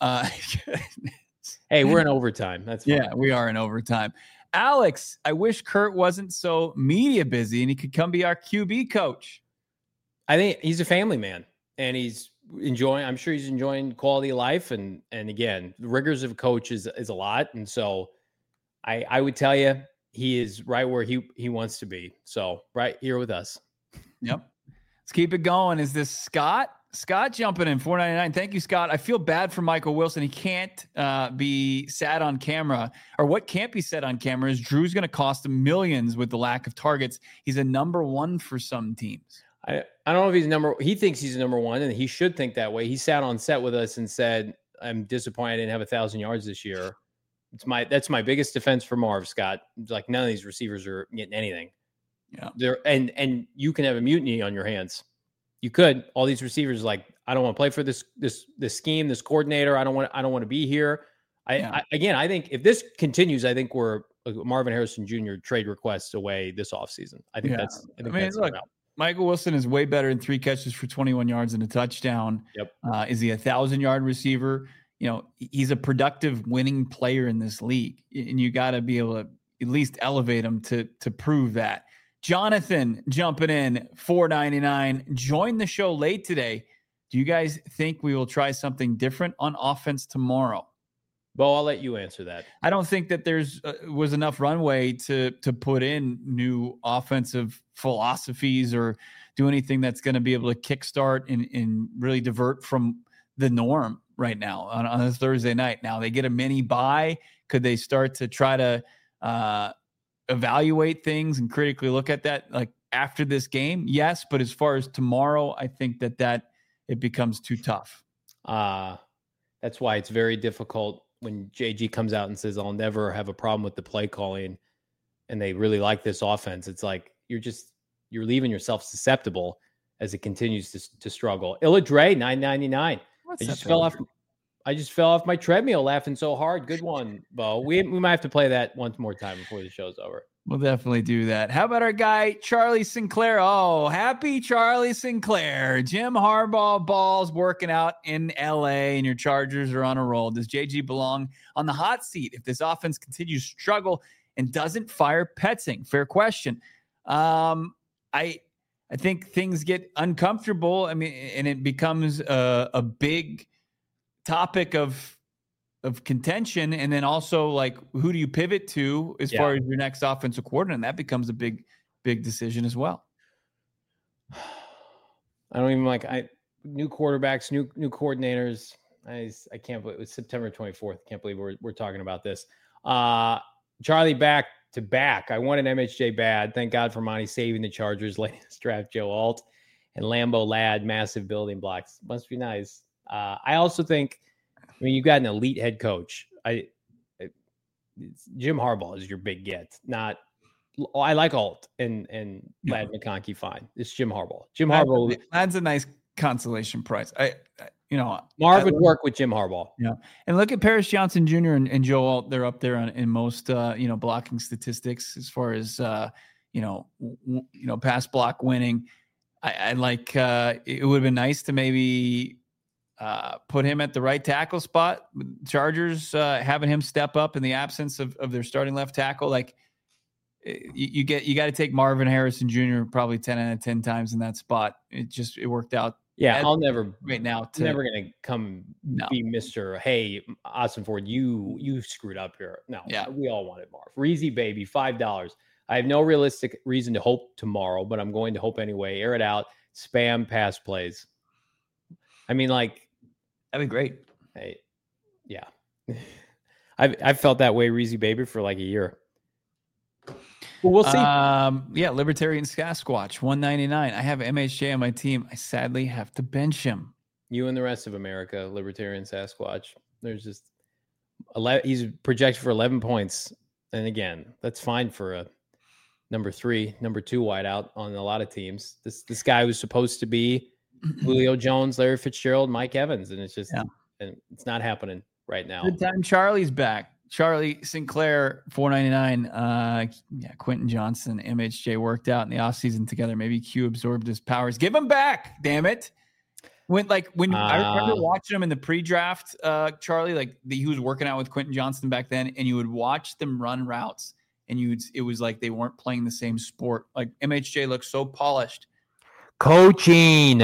Hey, we're in overtime. That's fine. Yeah, we are in overtime. Alex, I wish Kurt wasn't so media busy and he could come be our QB coach. I think he's a family man, and I'm sure he's enjoying quality of life. And again, the rigors of a coach is a lot. And so I would tell you, he is right where he wants to be. So right here with us. Yep. Let's keep it going. Is this Scott? Scott jumping in, $4.99. Thank you, Scott. I feel bad for Michael Wilson. He can't be sat on camera, or what can't be said on camera is Drew's going to cost him millions with the lack of targets. He's a number one for some teams. I don't know if he thinks he's number one, and he should think that way. He sat on set with us and said, I'm disappointed I didn't have 1,000 yards this year. That's my biggest defense for Marv, Scott. It's like, none of these receivers are getting anything. Yeah. And you can have a mutiny on your hands. You could. All these receivers, like, I don't want to play for this scheme, this coordinator. I don't want to be here. I think if this continues, I think we're Marvin Harrison Jr. trade requests away this offseason. I think that's look, Michael Wilson is way better in 3 catches for 21 yards and a touchdown. Yep. Is he 1,000-yard receiver? He's a productive winning player in this league, and you got to be able to at least elevate him to prove that. Jonathan jumping in, $4.99. Joined the show late today. Do you guys think we will try something different on offense tomorrow? Well, I'll let you answer that. I don't think that there's was enough runway to put in new offensive philosophies or do anything that's going to be able to kickstart and really divert from the norm right now on a Thursday night. Now they get a mini bye. Could they start to try to evaluate things and critically look at that like after this game? Yes. But as far as tomorrow, I think that it becomes too tough. That's why it's very difficult when JG comes out and says, I'll never have a problem with the play calling, and they really like this offense. It's like you're leaving yourself susceptible as it continues to struggle. Illa Dre, $9.99. I just fell off my treadmill laughing so hard. Good one, Bo. We might have to play that once more time before the show's over. We'll definitely do that. How about our guy, Charlie Sinclair? Oh, happy Charlie Sinclair. Jim Harbaugh balls working out in LA, and your Chargers are on a roll. Does JG belong on the hot seat if this offense continues to struggle and doesn't fire Petzing? Fair question. I think things get uncomfortable. I mean, and it becomes a big topic of contention. And then also, like, who do you pivot to as far as your next offensive coordinator? And that becomes a big decision as well. I don't even new quarterbacks, new coordinators. I can't believe it was September 24th. Can't believe we're talking about this. Charlie back to back. I wanted MHJ bad. Thank God for Monty saving the Chargers latest draft. Joe Alt and Lambeau Ladd, massive building blocks. Must be nice. I also think, you've got an elite head coach. Jim Harbaugh is your big get. I like Alt and Ladd McConkey fine. It's Jim Harbaugh. Harbaugh. That's a nice consolation prize. Marv would work with Jim Harbaugh. Yeah. And look at Paris Johnson Jr. and Joe Alt. They're up there in most, blocking statistics as far as, pass block winning. I like, it would have been nice to maybe put him at the right tackle spot. Chargers having him step up in the absence of their starting left tackle. Like you got to take Marvin Harrison Jr. probably 10 out of 10 times in that spot. It worked out. Yeah, I'll never right now. Never gonna come be Mr. Hey, Austin Ford, you screwed up here. No, we all wanted Marv. Reezy baby, $5. I have no realistic reason to hope tomorrow, but I'm going to hope anyway. Air it out. Spam pass plays. I mean, like, that'd be great. Hey, yeah, I've felt that way, Reezy baby, for like a year. Well, we'll see. Libertarian Sasquatch, $1.99. I have MHJ on my team. I sadly have to bench him. You and the rest of America, Libertarian Sasquatch. There's just 11. He's projected for 11 points, and again, that's fine for a number 3, number 2 wideout on a lot of teams. This guy was supposed to be Julio Jones, Larry Fitzgerald, Mike Evans, and it's just and it's not happening right now. Good time. Charlie's back. Charlie Sinclair, $4.99. Quentin Johnson, MHJ worked out in the offseason together. Maybe Q absorbed his powers. Give him back, damn it. I remember watching him in the pre-draft, Charlie, like he was working out with Quentin Johnson back then, and you would watch them run routes, and it was like they weren't playing the same sport. Like MHJ looked so polished. Coaching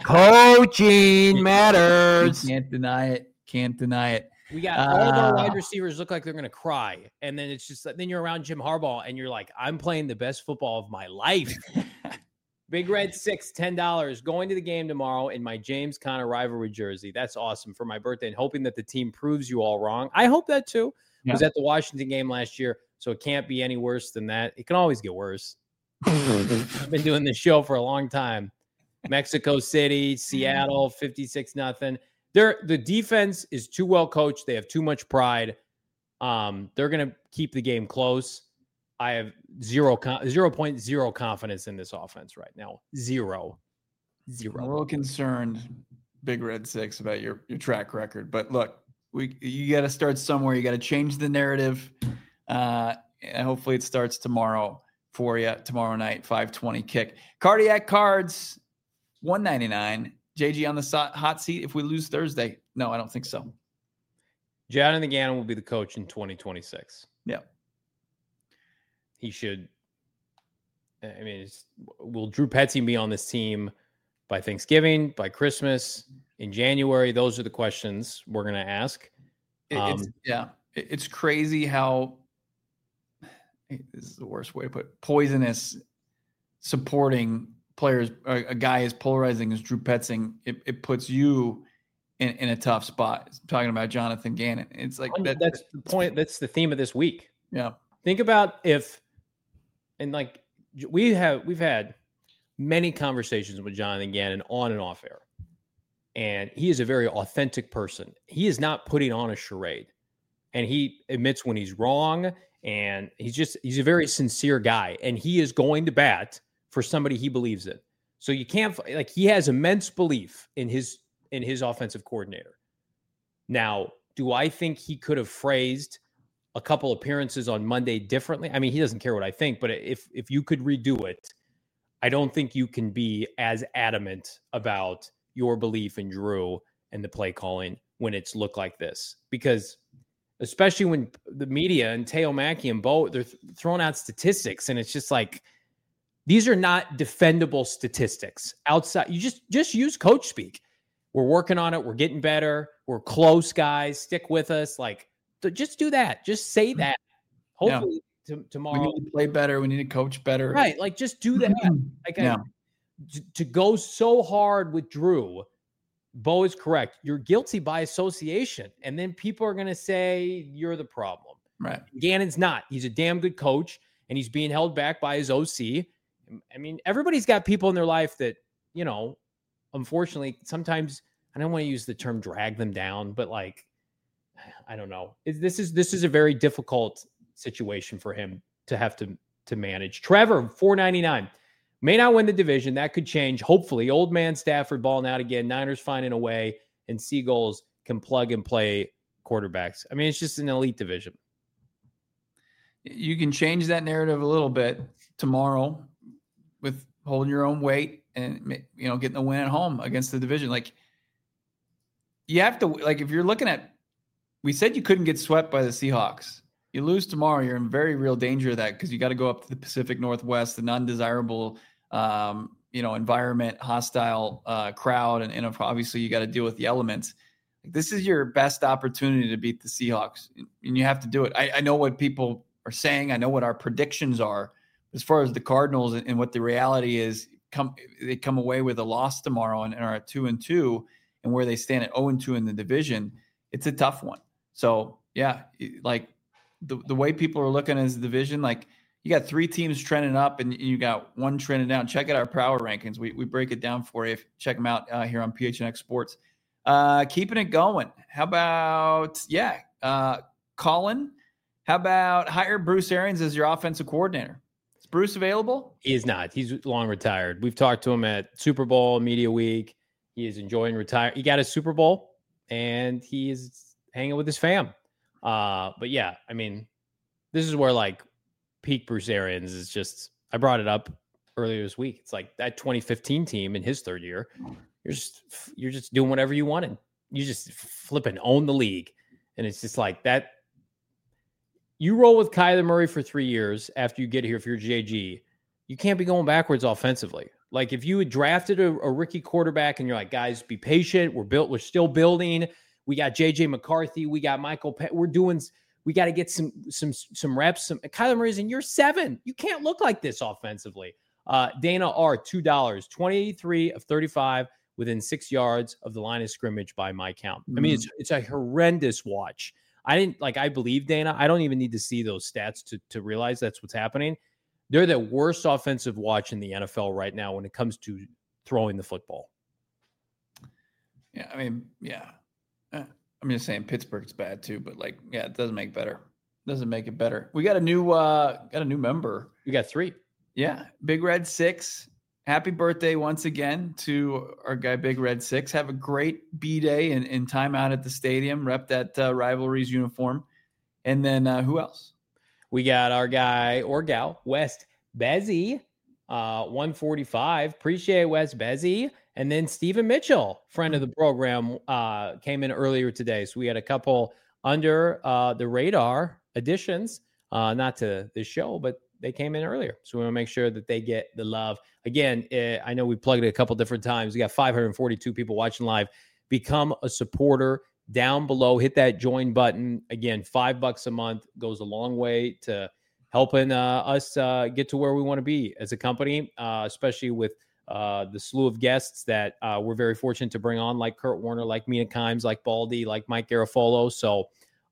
matters. Can't deny it. We got all of our wide receivers look like they're going to cry. And then it's just then you're around Jim Harbaugh and you're like, I'm playing the best football of my life. Big Red 6, $10. Going to the game tomorrow in my James Conner rivalry jersey. That's awesome for my birthday, and hoping that the team proves you all wrong. I hope that too. Yeah. Was at the Washington game last year, so it can't be any worse than that. It can always get worse. I've been doing this show for a long time. Mexico City, Seattle, 56-0. The defense is too well coached. They have too much pride. They're going to keep the game close. I have 0.0 confidence in this offense right now. Zero. I'm a little concerned, Big Red 6, about your track record. But look, you got to start somewhere. You got to change the narrative. And hopefully it starts tomorrow for you. Tomorrow night, 5:20 kick. Cardiac Cards, $1.99. JG on the hot seat if we lose Thursday. No, I don't think so. Jonathan Gannon will be the coach in 2026. Yeah. He should. I mean, will Drew Petzing be on this team by Thanksgiving, by Christmas, in January? Those are the questions we're going to ask. It's crazy how, this is the worst way to put it, poisonous supporting players, a guy as polarizing as Drew Petzing, it puts you in a tough spot. Talking about Jonathan Gannon. It's like that's the point. That's the theme of this week. Yeah. Think about we've had many conversations with Jonathan Gannon on and off air. And he is a very authentic person. He is not putting on a charade. And he admits when he's wrong. And he's a very sincere guy. And he is going to bat for somebody he believes in. So you can't, he has immense belief in his offensive coordinator. Now, do I think he could have phrased a couple appearances on Monday differently? I mean, he doesn't care what I think, but if you could redo it, I don't think you can be as adamant about your belief in Drew and the play calling when it's looked like this, because especially when the media and Teo Mackey and Bo, they're throwing out statistics, and it's just like, these are not defendable statistics outside. You just use coach speak. We're working on it. We're getting better. We're close, guys. Stick with us. Just do that. Just say that. Hopefully tomorrow. We need to play better. We need to coach better. Right. Just do that. To go so hard with Drew, Bo is correct. You're guilty by association. And then people are going to say you're the problem. Right. Gannon's not. He's a damn good coach, and he's being held back by his OC. I mean, everybody's got people in their life that, unfortunately, sometimes I don't want to use the term drag them down, but I don't know. This is a very difficult situation for him to have to manage. Trevor, $4.99. May not win the division. That could change. Hopefully, old man Stafford balling out again. Niners finding a way, and Seagulls can plug and play quarterbacks. I mean, it's just an elite division. You can change that narrative a little bit tomorrow with holding your own weight and, getting a win at home against the division. You have to, if you're looking at, we said you couldn't get swept by the Seahawks. You lose tomorrow, you're in very real danger of that, because you got to go up to the Pacific Northwest, an undesirable, environment, hostile crowd, and obviously you got to deal with the elements. This is your best opportunity to beat the Seahawks, and you have to do it. I know what people are saying. I know what our predictions are as far as the Cardinals and what the reality is. They come away with a loss tomorrow and are at 2-2, and where they stand at 0-2 in the division. It's a tough one. So yeah, the way people are looking at the division, you got 3 teams trending up and you got 1 trending down. Check out our power rankings. We break it down for you. Check them out here on PHNX Sports. Keeping it going. How about, Colin, how about hire Bruce Arians as your offensive coordinator? Is Bruce available? He is not. He's long retired. We've talked to him at Super Bowl, Media Week. He is enjoying retire. He got a Super Bowl, and he is hanging with his fam. But yeah, I mean, this is where peak Bruce Arians is just, I brought it up earlier this week. It's that 2015 team in his third year. You're just doing whatever you wanted. You just flipping own the league. And it's just that. You roll with Kyler Murray for 3 years after you get here. If you're JG, you can't be going backwards offensively. If you had drafted a rookie quarterback and you're guys, be patient. We're still building. We got JJ McCarthy. We got Michael. We got to get some reps. Kyler Murray's in year 7. You can't look like this offensively. Dana R, $2, 23 of 35 within 6 yards of the line of scrimmage by my count. I mean, it's a horrendous watch. I believe Dana. I don't even need to see those stats to realize that's what's happening. They're the worst offensive watch in the NFL right now when it comes to throwing the football. Yeah, I mean, yeah. I'm just saying Pittsburgh's bad too, but it doesn't make better. Doesn't make it better. We got a new member. We got 3. Yeah, Big Red 6. Happy birthday once again to our guy Big Red 6. Have a great B-Day and time out at the stadium. Rep that Rivalries uniform. And then who else? We got our guy or gal, West Bezzy, 145. Appreciate West Bezzy. And then Stephen Mitchell, friend of the program, came in earlier today. So we had a couple under the radar additions, not to this show, but they came in earlier. So we want to make sure that they get the love. Again, I know we plugged it a couple different times. We got 542 people watching live. Become a supporter down below. Hit that join button. Again, $5 a month goes a long way to helping us get to where we want to be as a company, especially with the slew of guests that we're very fortunate to bring on, like Kurt Warner, like Mina Kimes, like Baldy, like Mike Garafolo. So,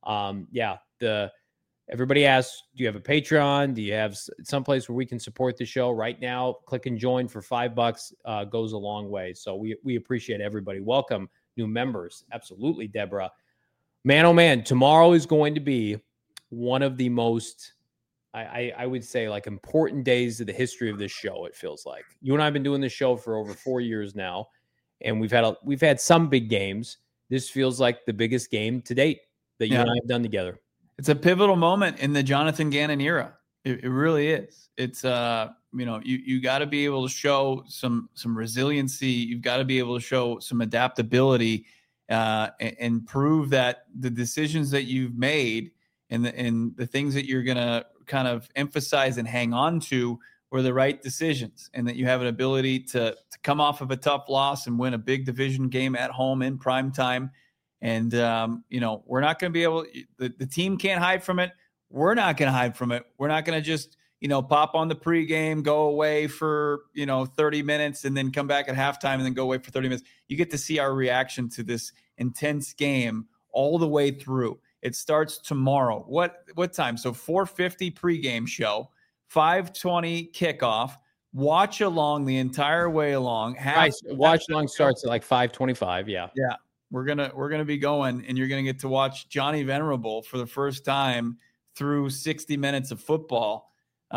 everybody asks, do you have a Patreon? Do you have someplace where we can support the show? Right now, click and join for $5 goes a long way. So we appreciate everybody. Welcome new members. Absolutely, Deborah. Man, oh man, tomorrow is going to be one of the most, I would say, like, important days of the history of this show. It feels like you and I have been doing this show for over 4 years now, and we've had some big games. This feels like the biggest game to date that you and I have done together. It's a pivotal moment in the Jonathan Gannon era. It really is. It's you got to be able to show some resiliency. You've got to be able to show some adaptability and prove that the decisions that you've made and the things that you're going to kind of emphasize and hang on to were the right decisions, and that you have an ability to come off of a tough loss and win a big division game at home in prime time. And, we're not going to be able – the team can't hide from it. We're not going to hide from it. We're not going to just, pop on the pregame, go away for, 30 minutes and then come back at halftime and then go away for 30 minutes. You get to see our reaction to this intense game all the way through. It starts tomorrow. What time? So 4:50 pregame show, 5:20 kickoff. Watch along the entire way along. Watch along starts at like 5:25. Yeah. Yeah. We're gonna be going, and you're gonna get to watch Johnny Venerable for the first time through 60 minutes of football.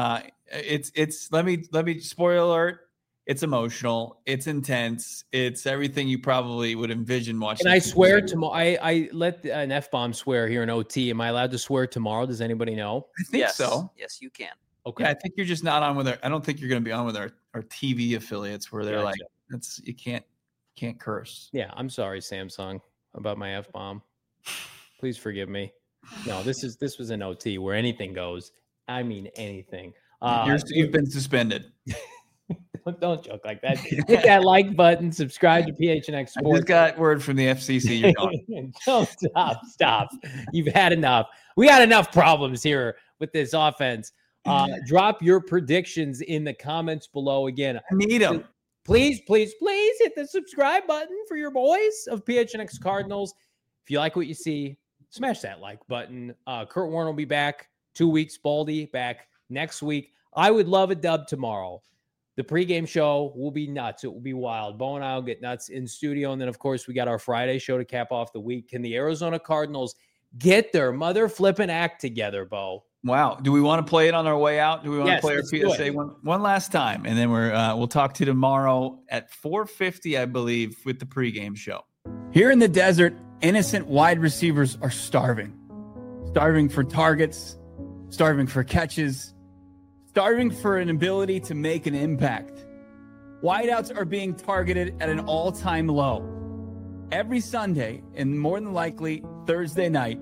It's let me spoiler alert. It's emotional. It's intense. It's everything you probably would envision watching. And I swear tomorrow. I let an F-bomb swear here in OT. Am I allowed to swear tomorrow? Does anybody know? I think so. Yes, you can. Okay. Yeah, I think you're just not on with I don't think you're going to be on with our TV affiliates where they're like, you can't curse. Yeah, I'm sorry, Samsung, about my F-bomb. Please forgive me. No, this was an OT where anything goes. I mean anything. You've been suspended. Don't joke like that. Hit that like button. Subscribe to PHNX Sports. I just got word from the FCC. You're gone. Don't stop. You've had enough. We got enough problems here with this offense. Drop your predictions in the comments below. Again, I need them. Please hit the subscribe button for your boys of PHNX Cardinals. If you like what you see, smash that like button. Kurt Warner will be back 2 weeks. Baldy back next week. I would love a dub tomorrow. The pregame show will be nuts. It will be wild. Bo and I will get nuts in studio. And then, of course, we got our Friday show to cap off the week. Can the Arizona Cardinals get their mother flipping act together, Bo? Wow. Do we want to play it on our way out? Do we want to play our PSA one last time? And then we'll talk to you tomorrow at 4:50, I believe, with the pregame show. Here in the desert, innocent wide receivers are starving. Starving for targets, starving for catches, starving for an ability to make an impact. Wideouts are being targeted at an all-time low. Every Sunday, and more than likely Thursday night,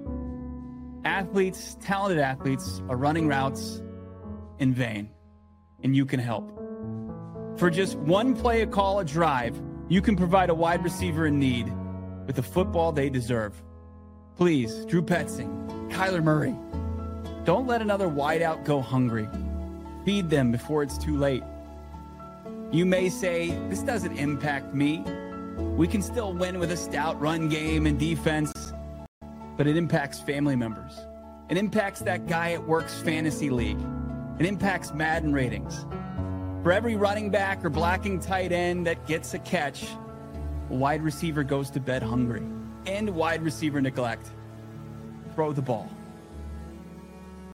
talented athletes are running routes in vain, and you can help. For just one play, a call, a drive, you can provide a wide receiver in need with the football they deserve. Please, Drew Petzing, Kyler Murray, don't let another wideout go hungry. Feed them before it's too late. You may say, this doesn't impact me. We can still win with a stout run game and defense. But it impacts family members. It impacts that guy at work's fantasy league. It impacts Madden ratings. For every running back or blocking tight end that gets a catch, a wide receiver goes to bed hungry. End wide receiver neglect. Throw the ball.